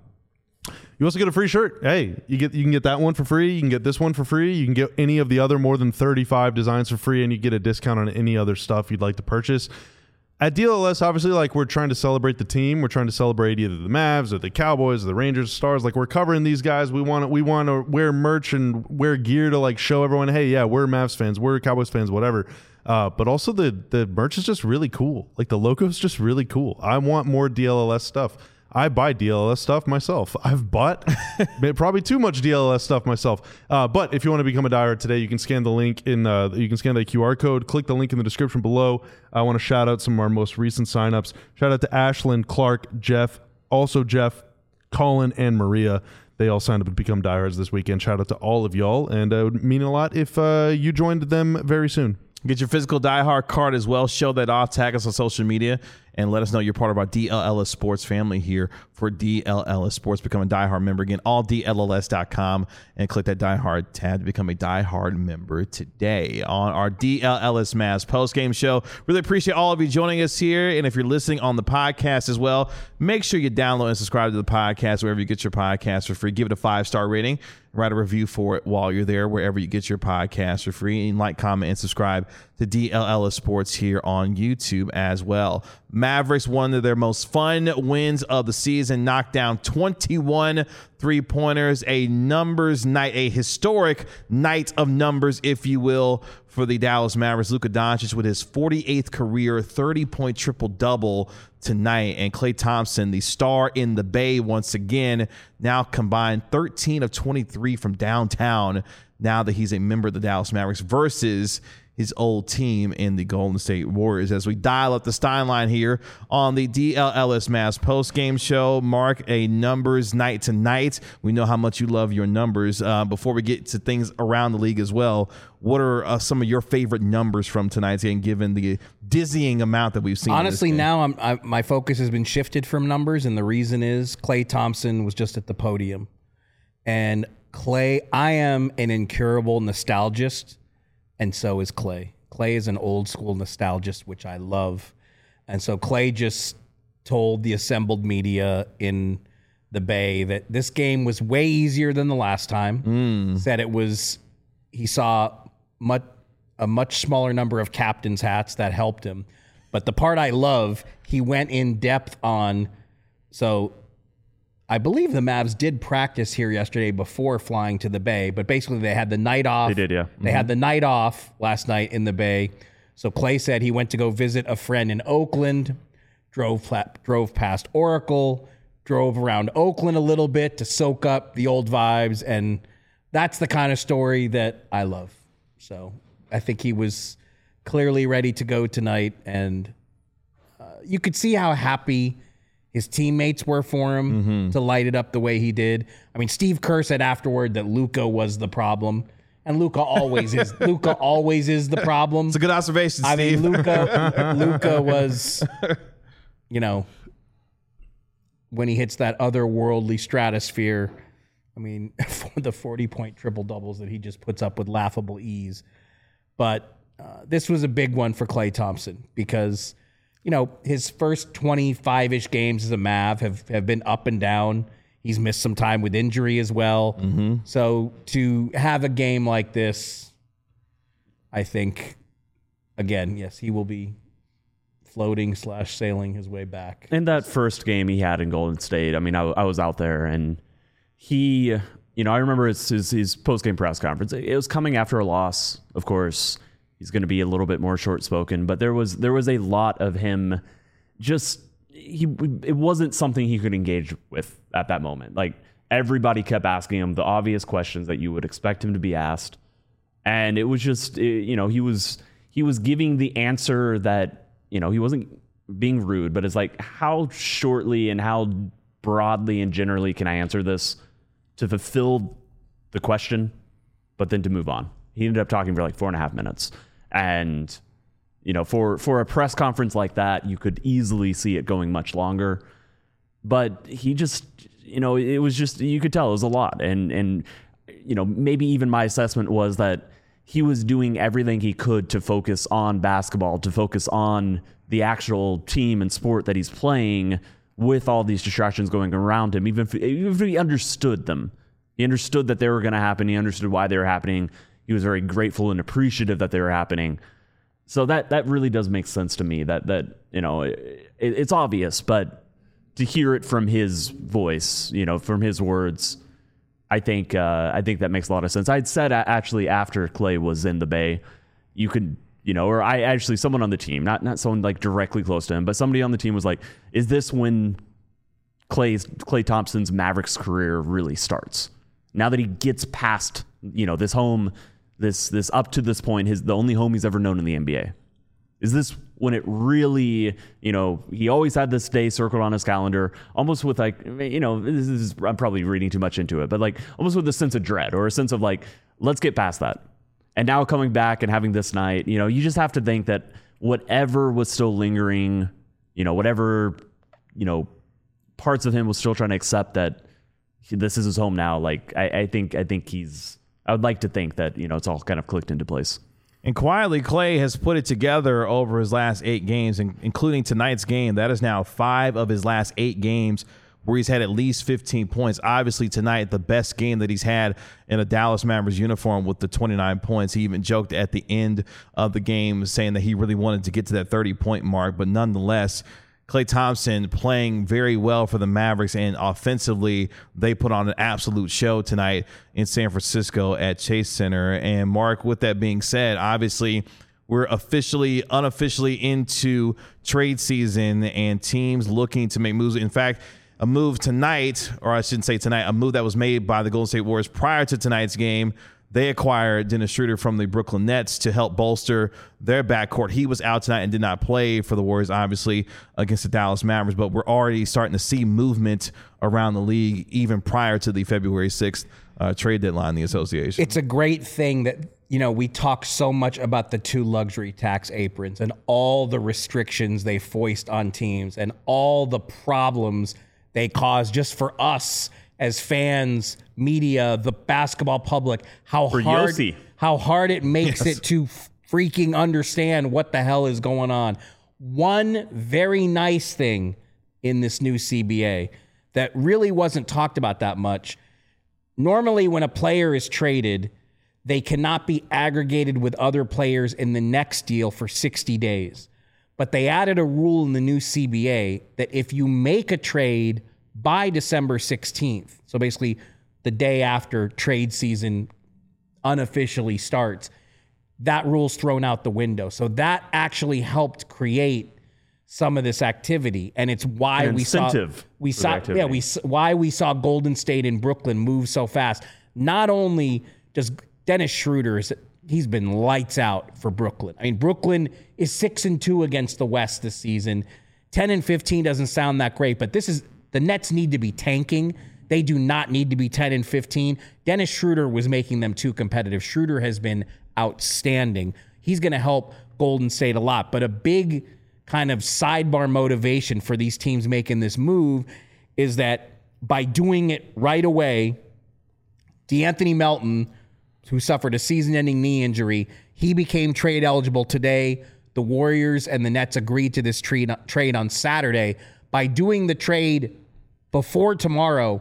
you also get a free shirt. Hey, you get you can get that one for free. You can get this one for free. You can get any of the other more than thirty-five designs for free, and you get a discount on any other stuff you'd like to purchase. At D L L S, obviously, like we're trying to celebrate the team. We're trying to celebrate either the Mavs or the Cowboys or the Rangers, Stars. Like we're covering these guys. We want to we want to wear merch and wear gear to like show everyone, hey, yeah, we're Mavs fans, we're Cowboys fans, whatever. Uh, but also the the merch is just really cool. Like the logo is just really cool. I want more D L L S stuff. I buy D L L S stuff myself. I've bought probably too much D L L S stuff myself. Uh, but if you want to become a diehard today, you can scan the link in. Uh, you can scan the Q R code. Click the link in the description below. I want to shout out some of our most recent signups. Shout out to Ashlyn, Clark, Jeff, also Jeff, Colin, and Maria. They all signed up to become diehards this weekend. Shout out to all of y'all, and uh, it would mean a lot if uh, you joined them very soon.
Get your physical diehard card as well. Show that off. Tag us on social media and let us know you're part of our D L L S Sports family here for D L L S Sports. Become a diehard member. Again, all D L L S dot com and click that diehard tab to become a diehard member today on our D L L S Mavs post-game show. Really appreciate all of you joining us here. And if you're listening on the podcast as well, make sure you download and subscribe to the podcast wherever you get your podcast for free. Give it a five-star rating. Write a review for it while you're there, wherever you get your podcast for free. And like, comment, and subscribe to D L L S Sports here on YouTube as well. Mavericks, one of their most fun wins of the season, knocked down twenty-one three-pointers, a numbers night, a historic night of numbers, if you will, for the Dallas Mavericks. Luka Doncic with his forty-eighth career thirty-point triple-double tonight, and Klay Thompson, the star in the Bay once again, now combined thirteen of twenty-three from downtown now that he's a member of the Dallas Mavericks versus his old team in the Golden State Warriors. As we dial up the Stein line here on the D L L S Mavs post-game show, Mark, a numbers night tonight. We know how much you love your numbers. Uh, before we get to things around the league as well, what are uh, some of your favorite numbers from tonight's game, given the dizzying amount that we've seen?
Honestly, now I'm, I, my focus has been shifted from numbers, and the reason is Klay Thompson was just at the podium. And Klay, I am an incurable nostalgist, and so is Klay. Klay is an old school nostalgist, which I love. And so Klay just told the assembled media in the Bay that this game was way easier than the last time. Mm. Said it was, he saw much, a much smaller number of captain's hats that helped him. But the part I love, he went in depth on, so I believe the Mavs did practice here yesterday before flying to the Bay, but basically they had the night off.
They did, yeah. Mm-hmm.
They had the night off last night in the Bay. So Klay said he went to go visit a friend in Oakland, drove drove past Oracle, drove around Oakland a little bit to soak up the old vibes, and that's the kind of story that I love. So I think he was clearly ready to go tonight, and uh, you could see how happy his teammates were for him mm-hmm. to light it up the way he did. I mean, Steve Kerr said afterward that Luka was the problem, and Luka always is. Luka always is the problem.
It's a good observation,
I
Steve.
mean, Luka, Luka was, you know, when he hits that otherworldly stratosphere. I mean, the forty-point triple doubles that he just puts up with laughable ease. But uh, this was a big one for Klay Thompson because, you know, his first twenty-five-ish games as a Mav have, have been up and down. He's missed some time with injury as well. Mm-hmm. So to have a game like this, I think, again, yes, he will be floating slash sailing his way back.
In that first game he had in Golden State, I mean, I, I was out there, and he, you know, I remember his, his, his post-game press conference. It was coming after a loss, of course. He's going to be a little bit more short-spoken, but there was there was a lot of him just, he it wasn't something he could engage with at that moment. Like, everybody kept asking him the obvious questions that you would expect him to be asked, and it was just, you know, he was he was giving the answer that, you know, he wasn't being rude, but it's like, how shortly and how broadly and generally can I answer this to fulfill the question, but then to move on? He ended up talking for like four and a half minutes. And, you know, for, for a press conference like that, you could easily see it going much longer. But he just, you know, it was just, you could tell it was a lot. And, and, you know, maybe even my assessment was that he was doing everything he could to focus on basketball, to focus on the actual team and sport that he's playing with all these distractions going around him, even if, even if he understood them. He understood that they were going to happen. He understood why they were happening. He was very grateful and appreciative that they were happening. So that that really does make sense to me. That that you know, it, it's obvious, but to hear it from his voice, you know, from his words, I think uh, I think that makes a lot of sense. I'd said actually after Klay was in the Bay, you could, you know, or I actually someone on the team, not not someone like directly close to him, but somebody on the team was like, "Is this when Klay's Klay Thompson's Mavericks career really starts? Now that he gets past, you know, this home." This this up to this point, his the only home he's ever known in the N B A. Is this when it really, you know, he always had this day circled on his calendar, almost with like, you know, this is, I'm probably reading too much into it, but like almost with a sense of dread or a sense of like, let's get past that. And now coming back and having this night, you know, you just have to think that whatever was still lingering, you know, whatever, you know, parts of him was still trying to accept that this is his home now. Like, I, I think, I think he's, I would like to think that, you know, it's all kind of clicked into place.
And quietly, Klay has put it together over his last eight games, including tonight's game. That is now five of his last eight games where he's had at least fifteen points. Obviously, tonight, the best game that he's had in a Dallas Mavericks uniform with the twenty-nine points. He even joked at the end of the game saying that he really wanted to get to that thirty-point mark. But nonetheless, Klay Thompson playing very well for the Mavericks, and offensively, they put on an absolute show tonight in San Francisco at Chase Center. And Mark, with that being said, obviously, we're officially, unofficially into trade season and teams looking to make moves. In fact, a move tonight, or I shouldn't say tonight, a move that was made by the Golden State Warriors prior to tonight's game. They acquired Dennis Schroeder from the Brooklyn Nets to help bolster their backcourt. He was out tonight and did not play for the Warriors, obviously, against the Dallas Mavericks. But we're already starting to see movement around the league even prior to the February sixth uh, trade deadline in the association.
It's a great thing that, you know, we talk so much about the two luxury tax aprons and all the restrictions they foist on teams and all the problems they cause just for us as fans, media, the basketball public, how
For
hard
Yossi.
how hard it makes
Yes.
it to freaking understand what the hell is going on. One very nice thing in this new C B A that really wasn't talked about that much. Normally, when a player is traded, they cannot be aggregated with other players in the next deal for sixty days. But they added a rule in the new C B A that if you make a trade by December sixteenth, so basically the day after trade season unofficially starts, that rule's thrown out the window. So that actually helped create some of this activity, and it's why
An
we saw
incentive
we
for the
saw
activity.
yeah we s- why we saw Golden State and Brooklyn move so fast. Not only does Dennis Schroeder is he's been lights out for Brooklyn. I mean, Brooklyn is six and two against the West this season. Ten and fifteen doesn't sound that great, but this is the Nets need to be tanking. They do not need to be ten and fifteen. Dennis Schroeder was making them too competitive. Schroeder has been outstanding. He's going to help Golden State a lot. But a big kind of sidebar motivation for these teams making this move is that by doing it right away, DeAnthony Melton, who suffered a season-ending knee injury, he became trade eligible today. The Warriors and the Nets agreed to this trade trade on Saturday. By doing the trade before tomorrow,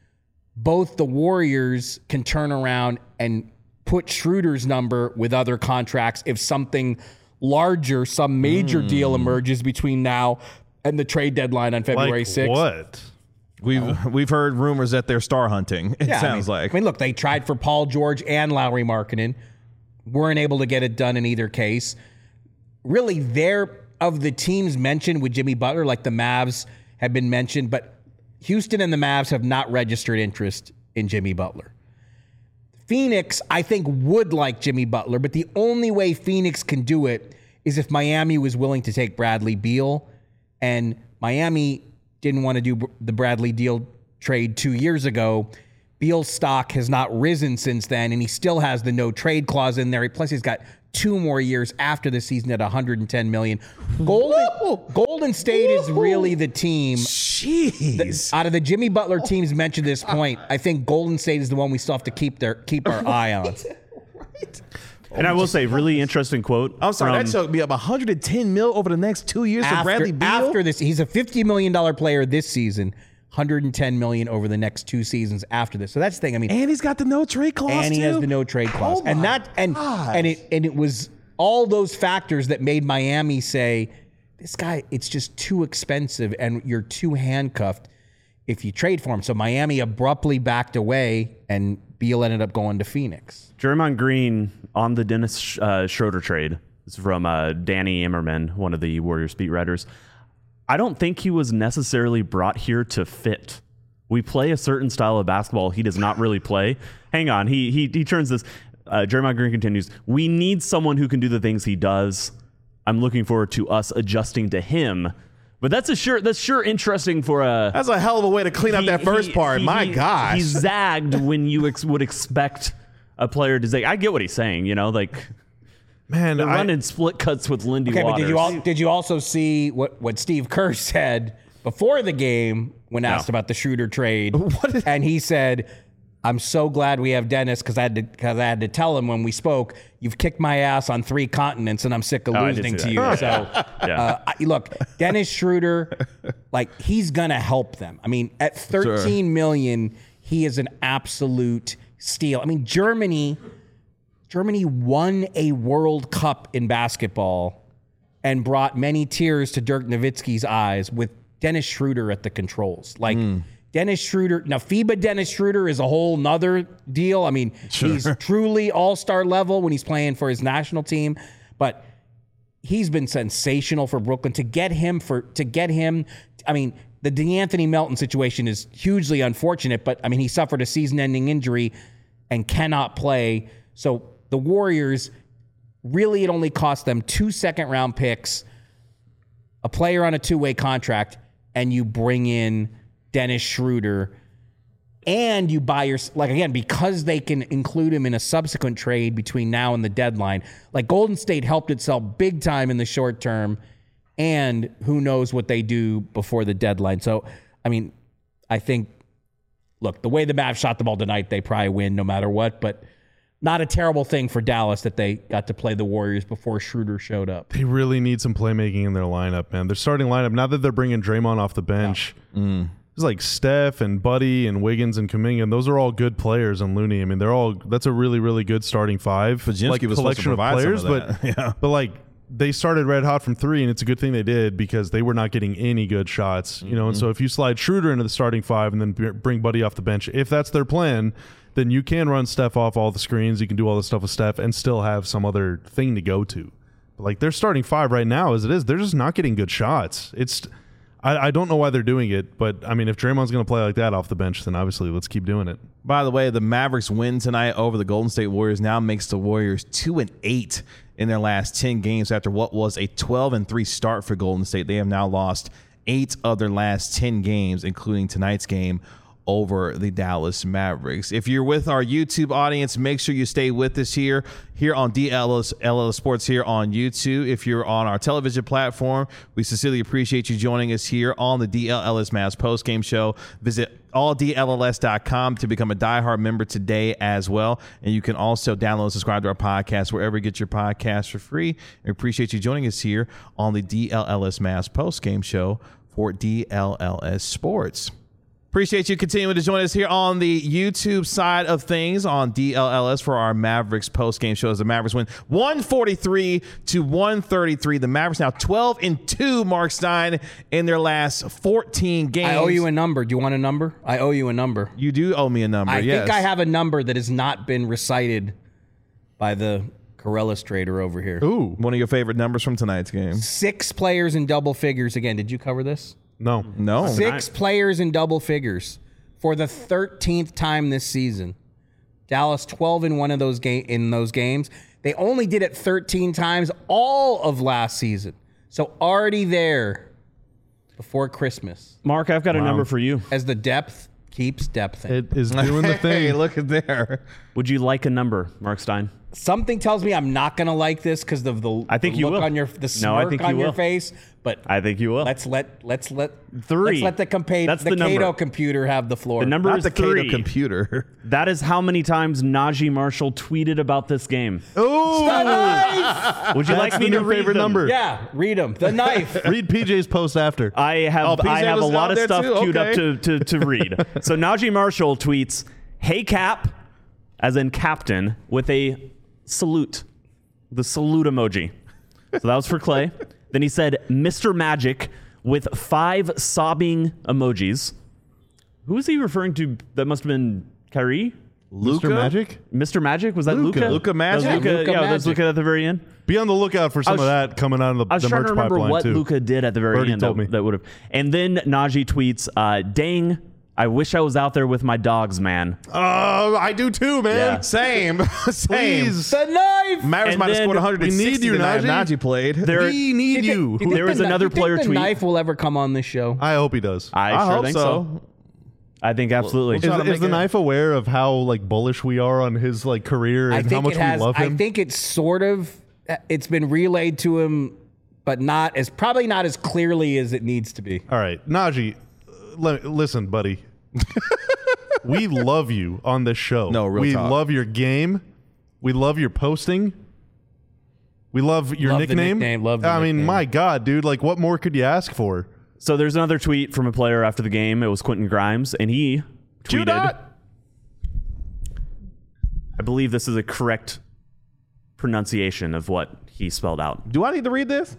both the Warriors can turn around and put Schroeder's number with other contracts if something larger, some major
Mm.
deal emerges between now and the trade deadline on February
Like
sixth.
what?
We've we've heard rumors that they're star hunting. It
Yeah,
sounds
I mean,
like.
I mean, look, they tried for Paul George and Lowry Markkanen. Weren't able to get it done in either case. Really, they're of the teams mentioned with Jimmy Butler, like the Mavs have been mentioned, but Houston and the Mavs have not registered interest in Jimmy Butler. Phoenix, I think, would like Jimmy Butler, but the only way Phoenix can do it is if Miami was willing to take Bradley Beal, and Miami didn't want to do the Bradley Beal trade two years ago. Beal's stock has not risen since then, and he still has the no trade clause in there. Plus, he's got two more years after the season at one hundred ten million. Golden, Golden State is really the team.
Jeez.
Out of the Jimmy Butler teams mentioned at this point, I think Golden State is the one we still have to keep their keep our eye on.
Right.
And I will say, really interesting quote.
I'm sorry,
from,
that should be up one hundred ten mil over the next two years for Bradley Beal.
After this, he's a fifty million dollars player this season, one hundred ten million dollars over the next two seasons after this. So that's the thing. I mean,
And he's got the no trade clause.
and he
too.
has the no trade clause,
Oh
and
my
that and
gosh.
and it and it was all those factors that made Miami say, this guy, it's just too expensive, and you're too handcuffed if you trade for him. So Miami abruptly backed away, and Beal ended up going to Phoenix.
Draymond Green on the Dennis uh, Schroeder trade. This is from uh, Danny Immerman, one of the Warriors beat writers. I don't think he was necessarily brought here to fit. We play a certain style of basketball he does not really play. Hang on, he he he turns this. Uh, Draymond Green continues, we need someone who can do the things he does. I'm looking forward to us adjusting to him. But that's a sure that's sure interesting for a.
That's a hell of a way to clean up
he-
that first
he-
part.
he-
My
he-
gosh.
He zagged when you ex- would expect a player to zag. I get what he's saying, you know, like
Man,
they're
I,
running split cuts with Lindy
Okay,
Waters.
but did you all, did you also see what, what Steve Kerr said before the game when asked
No.
about the Schroeder trade?
What is-
and he said, "I'm so glad we have Dennis because I had to because I had to tell him when we spoke, you've kicked my ass on three continents and I'm sick of
Oh, I did
losing
see
to you."
that.
So
Yeah.
uh, I, look, Dennis Schroeder, like he's gonna help them. I mean, at thirteen million, he is an absolute steal. I mean, Germany. Germany won a World Cup in basketball and brought many tears to Dirk Nowitzki's eyes with Dennis Schroeder at the controls. Like Dennis Schroeder, now FIBA Dennis Schroeder is a whole nother deal. I mean, he's truly all-star level when he's playing for his national team, but he's been sensational for Brooklyn. To get him for to get him, I mean, the DeAnthony Melton situation is hugely unfortunate, but I mean, he suffered a season-ending injury and cannot play. So the Warriors, really, it only cost them two second-round picks, a player on a two-way contract, and you bring in Dennis Schroeder, and you buy your, like, again, because they can include him in a subsequent trade between now and the deadline. Like, Golden State helped itself big time in the short term, and who knows what they do before the deadline. So, I mean, I think, look, the way the Mavs shot the ball tonight, they probably win no matter what, but not a terrible thing for Dallas that they got to play the Warriors before Schroeder showed up.
they really need some playmaking in their lineup, man. Their starting lineup, now that they're bringing Draymond off the bench, it's like Steph and Buddy and Wiggins and Kuminga, and those are all good players on Looney. I mean, they're all that's a really, really good starting five.
Fajinski
like
was supposed to
collection of
provide some
players,
of that.
but
Yeah.
but like they started red hot from three, and it's a good thing they did because they were not getting any good shots. You know, and so if you slide Schroeder into the starting five and then b- bring Buddy off the bench, if that's their plan, then you can run Steph off all the screens. You can do all the stuff with Steph and still have some other thing to go to. But like their starting five right now, as it is, they're just not getting good shots. It's I, I don't know why they're doing it, but I mean, if Draymond's going to play like that off the bench, then obviously let's keep doing it.
By the way, the Mavericks win tonight over the Golden State Warriors now makes the Warriors two and eight in their last ten games after what was a twelve and three start for Golden State. They have now lost eight of their last ten games, including tonight's game over the Dallas Mavericks. If you're with our YouTube audience, make sure you stay with us here, here on D L S, L L Sports here on YouTube. If you're on our television platform, we sincerely appreciate you joining us here on the D L L S Mavs postgame show. Visit all D L L S dot com to become a diehard member today as well. And you can also download and subscribe to our podcast wherever you get your podcasts for free. We appreciate you joining us here on the D L L S Mavs postgame show for D L L S Sports. Appreciate you continuing to join us here on the YouTube side of things on D L L S for our Mavericks post-game show as the Mavericks win one forty-three to one thirty-three. The Mavericks now twelve and two, Mark Stein, in their last fourteen games.
I owe you a number. Do you want a number? I owe you a number.
You do owe me a number,
I
yes.
think I have a number that has not been recited by the Corellis trader over here.
Ooh,
One of your favorite numbers from tonight's game.
Six players in double figures. Again, did you cover this?
no.
No.
Six players in double figures for the thirteenth time this season. Dallas twelve and one of those ga- in those games. They only did it thirteen times all of last season. So already there before Christmas.
Mark, I've got a number for you.
As the depth keeps depthing.
It is doing the
Hey,
thing.
look at there.
Would you like a number, Mark Stein?
something tells me I'm not gonna like this because of the,
I think
the
you
look
will.
on your the
No, I
smirk
think
on
you
your
will.
face. But
I think you will.
let's let let's let
Three.
Let's let the compa-
That's
the,
the number.
Cato computer have the floor.
The number
Not
is
the Cato
three.
computer.
That is how many times Najee Marshall tweeted about this game.
Oh,
Would you
that's
like me
the
to
new
read
favorite
them?
number.
Yeah, read them. The knife.
Read P J's post after.
I have
Oh, P J
I have a
was
lot
out
of
there
stuff
too?
queued
Okay.
up to, to, to read. So Najee Marshall tweets, "Hey Cap," as in captain, with a salute, the salute emoji. So that was for Clay. Then he said, "Mister Magic," with five sobbing emojis. Who was he referring to? That must have been Kyrie.
Luka?
Mister Magic?
Mister Magic? Was that
Luka.
Luka?
Luka Magic?
That was Luka,
Luka
yeah, that was
Magic.
Luka at the very end.
Be on the lookout for some
was-
of that coming out of the,
I was
the
trying
merch
to remember
pipeline
what
too.
Luka did at the very
Birdie
end.
told
that,
me.
that would have. And then Najee tweets, uh, "Dang, I wish I was out there with my dogs, man."
Oh, I do too, man.
Yeah.
Same. Same.
Please.
The knife.
Mavericks
And
might have
then
scored one hundred sixty
we need you,
tonight if
Najee.
Najee played.
There,
We need
Do
you.
think- do
There
think
was
the,
another
do you
player
think the
tweet.
knife will ever come on this show?
I hope he does.
I,
I
sure
hope
think
so.
so. I think absolutely.
Is,
trying to
is
make
the
it-
knife aware of how like bullish we are on his like career
I
and
think
how much
it has.
we love
I
him?
think it's sort of. It's been relayed to him, but not as probably not as clearly as it needs to be.
All right, Najee, uh, le- listen, buddy. We love you on this show.
No, real
we
talk.
love your game. We love your posting. We love your
Love the
nickname.
nickname, love the
I mean,
nickname.
my God, dude! Like, what more could you ask for?
So there's another tweet from a player after the game. It was Quentin Grimes, and he
Q
tweeted,
dot.
I believe this is a correct pronunciation of what he spelled out.
Do I need to read this?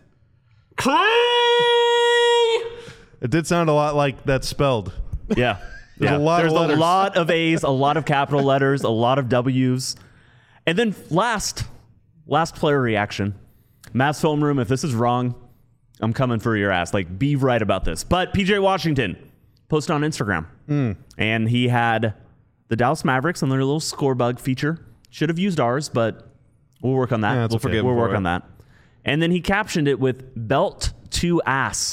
It did sound a lot like that's spelled.
Yeah.
There's
yeah.
a lot of
There's
letters.
a lot of A's, a lot of capital letters, a lot of W's. And then last, last player reaction. Mavs film room, if this is wrong, I'm coming for your ass. Like, be right about this. But P J Washington posted on Instagram.
Mm.
And he had the Dallas Mavericks on their little score bug feature. Should have used ours, but we'll work on that.
Yeah, it's
we'll
okay.
forget. We'll
for
work
it.
on that. And then he captioned it with belt to ass.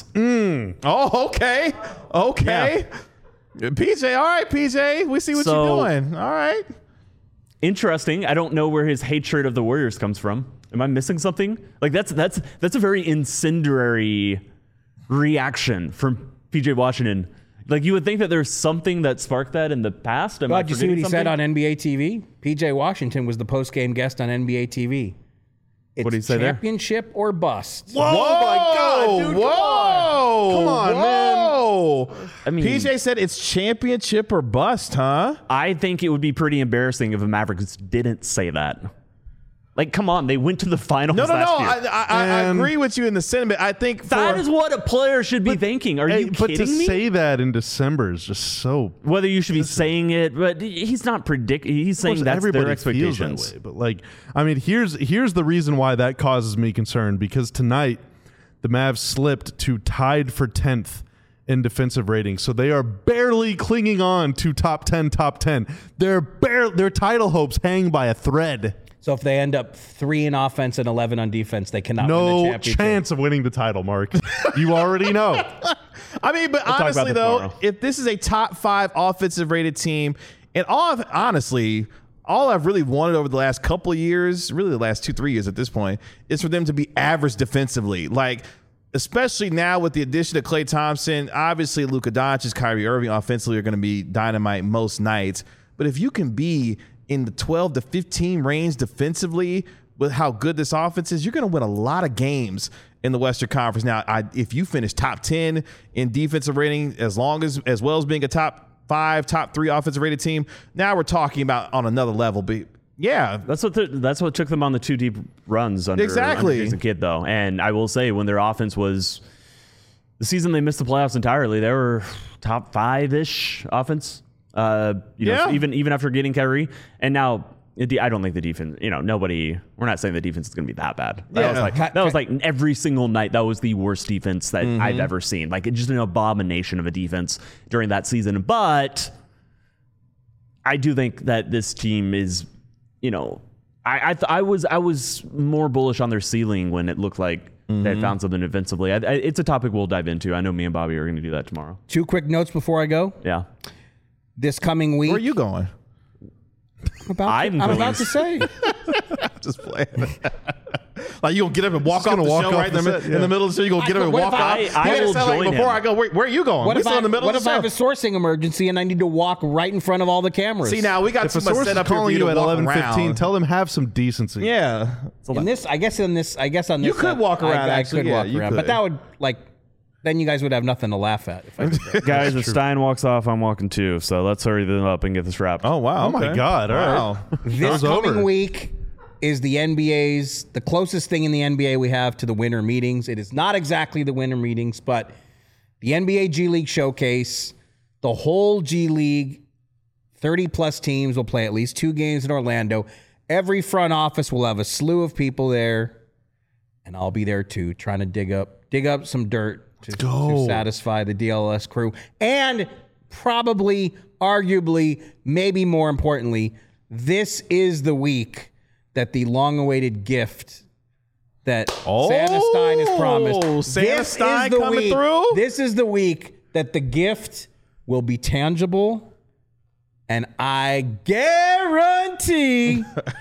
Oh, okay. Okay. P J, all right, P J. We see what
So-
you're doing. All right.
Interesting. I don't know where his hatred of the Warriors comes from. Am I missing something? Like that's that's that's a very incendiary reaction from P J Washington. Like you would think that there's something that sparked that in the past. Am I
God, did you see what
forgetting
he said
something?
on N B A T V? P J Washington was the post-game guest on N B A T V. It's
What'd he say there?
championship or bust.
Whoa, my God, dude!
Whoa.
Come on, man.
Whoa.
I mean-
P J said it's championship or bust, huh?
I think it would be pretty embarrassing if the Mavericks didn't say that. Like, come on, they went to the finals
No, no,
last
no.
year.
I, I, I
Man.
agree with you in the sentiment. I think for,
that is what a player should be thinking. Are
Hey,
you
but to
kidding me?
say that in December is just so.
Whether you should be saying it, but he's not predict. He's
Of
saying
course,
that's
everybody
their
feels that
expectations.
way, but like, I mean, here's here's the reason why that causes me concern because tonight the Mavs slipped to tied for tenth in defensive rating, so they are barely clinging on to top ten, top ten. Their bare their title hopes hang by a thread.
So if they end up three in offense and eleven on defense, they cannot win the
No
championship.
chance of winning the title, Mark. You already know.
I mean, but
We'll talk about
honestly,
this
though,
tomorrow.
if this is a top five offensive rated team, and all I've, honestly, all I've really wanted over the last couple of years, really the last two, three years at this point, is for them to be average defensively. Like, especially now with the addition of Klay Thompson, obviously Luka Doncic, Kyrie Irving offensively are going to be dynamite most nights. But if you can be in the twelve to fifteen range defensively with how good this offense is, you're going to win a lot of games in the Western Conference. Now, I, if you finish top ten in defensive rating, as long as as well as being a top five, top three offensive rated team, now we're talking about on another level. But yeah,
That's what the, that's what took them on the two deep runs under,
Exactly.
under Jason Kidd, though. And I will say, when their offense was the season they missed the playoffs entirely, they were top five ish offense. Uh, you know,
Yeah.
even even after getting Kyrie, and now it, I don't think the defense. You know, nobody. We're not saying the defense is going to be that bad. That
Yeah.
was like that was like every single night. That was the worst defense that I've ever seen. Like it's just an abomination of a defense during that season. But I do think that this team is, you know, I I, th- I was I was more bullish on their ceiling when it looked like they had found something defensively. I, I, it's a topic we'll dive into. I know me and Bobby are going to do that tomorrow.
Two quick notes before I go.
Yeah.
This coming week,
where are you going?
About
I'm
to, I'm
going-
about to say.
Just playing. Like you gonna get up and walk
Just
off
gonna
the
walk
show
off
right in the,
the
mi-
set,
in
yeah.
the middle of the show. You gonna
I-
get up and
what
walk
if
off.
I-
You
I
gotta
will
say, like,
join
before
him.
I go, where, where are you going?
What
We're
if,
still
I,
in the middle
what
of
if
the
I
show.
have a sourcing emergency and I need to walk right in front of all the cameras?
See, now we got
If
too
a
much
source
set
is
up here for
calling
you
you
to
at
walk
eleven fifteen,
around.
tell them have some decency.
Yeah.
in this, I guess in this, I guess on this,
You could
set,
walk around,
I, I
actually,
could
yeah,
walk
you
around,
could.
but that would like, then you guys would have nothing to laugh at. If I did that.
Guys, if Stein walks off, I'm walking too. So let's hurry them up and get this wrapped.
Oh wow.
Oh, my
okay.
God, all right.
Wow.
This
Show's
coming
over.
week is the N B A's, the closest thing in the N B A we have to the winter meetings. It is not exactly the winter meetings, but the N B A G League Showcase, the whole G League, thirty plus teams will play at least two games in Orlando. Every front office will have a slew of people there, and I'll be there too, trying to dig up dig up some dirt to, to satisfy the D L S crew. And probably, arguably, maybe more importantly, this is the week that the long-awaited gift that Santa Stein has promised.
Santa
This
Stein
is the
coming
week,
through?
This is the week that the gift will be tangible, and I guarantee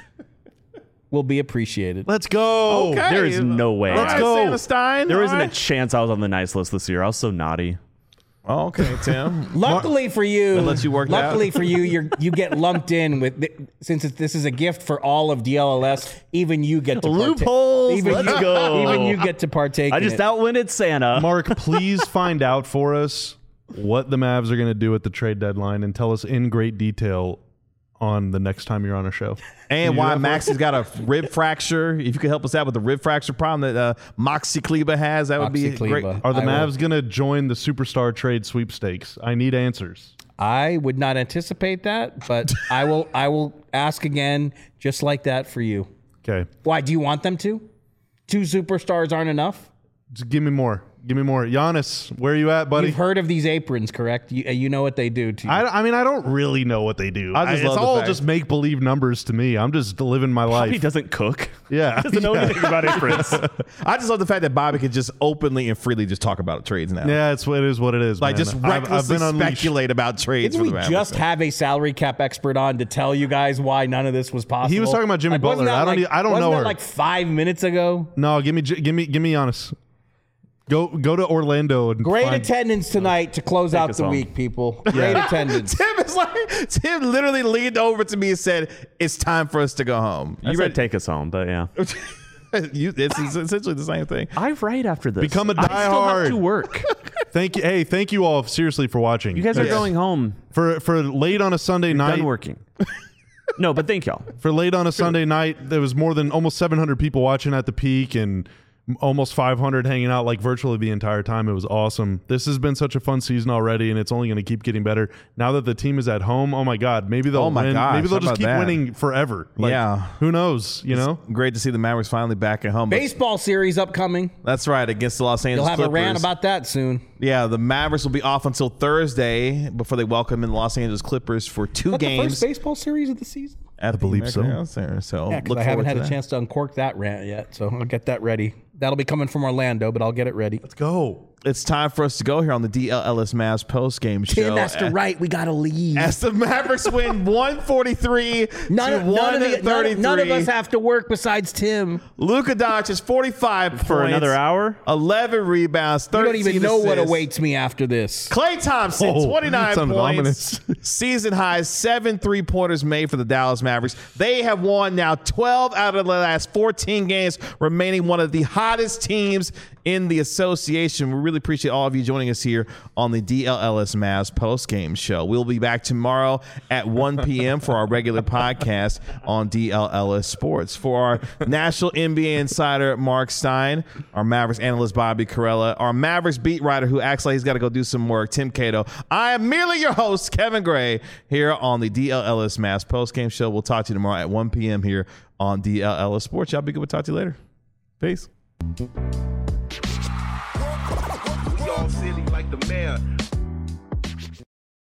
will be appreciated.
Let's go.
Okay.
There is no way.
All right,
go.
Santa Stein.
There
all
isn't
right.
a chance I was on the nice list this year. I was so naughty.
Oh, okay, Tim.
Luckily for you,
let you work that
luckily
out.
for you, you you get lumped in with the, since it's, this is a gift for all of D L L S. Even you get to partake-
Loopholes,
Even
let's
you,
go.
Even you get to partake.
I
in
just
it.
outwinded Santa.
Mark, please find out for us what the Mavs are going to do at the trade deadline and tell us in great detail on the next time you're on a show.
And
Can you
why
do that for us?
Maxi's got a rib fracture. If you could help us out with the rib fracture problem that uh, Moxie Kleba has, that would
Moxie
be great.
Kleba.
Are the
I will-
Mavs going to join the Superstar trade sweepstakes? I need answers.
I would not anticipate that, but I will. I will ask again, just like that for you.
Okay.
Why do you want them to? Two superstars aren't enough.
Just give me more. Give me more. Giannis, where are you at, buddy?
You've heard of these aprons, correct? You, you know what they do to you.
I, I mean, I don't really know what they do.
I just
I-
love
it's
the
all
fact-
just make believe numbers to me. I'm just living my
He
life.
doesn't cook.
Yeah.
Doesn't know
Yeah.
anything about aprons.
I just love the fact that Bobby can just openly and freely just talk about trades now.
Yeah, it's what it is. What it is.
Like
man.
just
I've- I've
recklessly
been unleashed.
speculate about trades.
Didn't
for
we
the
just
Mavericks.
have a salary cap expert on to tell you guys why none of this was possible?
He was talking about Jimmy
Like, wasn't
Butler.
that
I don't
like-
e- I don't
wasn't
know
that
her.
like five minutes ago.
No, give me, J- give me, give me Giannis. Go, go to Orlando and
Great
find-
attendance tonight to close out
us
the
home.
week, people. Great attendance.
Tim is like Tim literally leaned over to me and said, "It's time for us to go home."
You
You
said
ready?
take us home, but yeah.
you, it's essentially the same thing.
I write after this.
Become a
I still have
diehard.
to work.
Thank you. Hey, thank you all seriously for watching.
You guys are
Yeah.
going home.
for for late on a Sunday night.
Done working. No, but thank y'all.
For late on a Sunday night, there was more than almost seven hundred people watching at the peak and almost five hundred hanging out like virtually the entire time. It was awesome. This has been such a fun season already, and it's only going to keep getting better. Now that the team is at home, oh my God, maybe they'll
Oh my
win.
gosh,
maybe they'll
how
just
about
keep
that?
winning forever. Like,
Yeah.
who knows? You know,
Great to see the Mavericks finally back at home. But
Baseball series upcoming.
that's right, against the Los
You'll
Angeles
have
Clippers.
a rant about that soon.
Yeah, the Mavericks will be off until Thursday before they welcome in the Los Angeles Clippers for two
Is that the
games.
first baseball series of the season?
At the
believe so.
American Center. So
Yeah, because
look
I haven't
forward
had
to
a
that.
chance to uncork that rant yet, so I'll get that ready. That'll be coming from Orlando, but I'll get it ready.
let's go.
It's time for us to go here on the D L L S Mavs post game show.
Tim has to write. We gotta leave.
As the Mavericks win one forty-three
None,
to
of, none, of the, none,
one thirty-three.
none of us have to work besides Tim.
Luka Doncic is forty-five
For
points,
another hour?
eleven rebounds,
You
thirteen
don't even know what
assists.
awaits me after this.
Klay Thompson,
Oh,
twenty-nine
sounded
points,
ominous.
season high, seven three-pointers made for the Dallas Mavericks. They have won now twelve out of the last fourteen games, remaining one of the hottest teams in the association. We really appreciate all of you joining us here on the D L L S Mavs post-game show. We'll be back tomorrow at one p.m. for our regular podcast on D L L S Sports. For our national N B A insider, Mark Stein, our Mavericks analyst, Bobby Carella, our Mavericks beat writer who acts like he's got to go do some work, Tim Cato. I am merely your host, Kevin Gray, here on the D L L S Mavs post-game show. We'll talk to you tomorrow at one p.m. here on D L L S Sports. Y'all be good. We'll talk to you later. Peace.
We all silly like the mayor.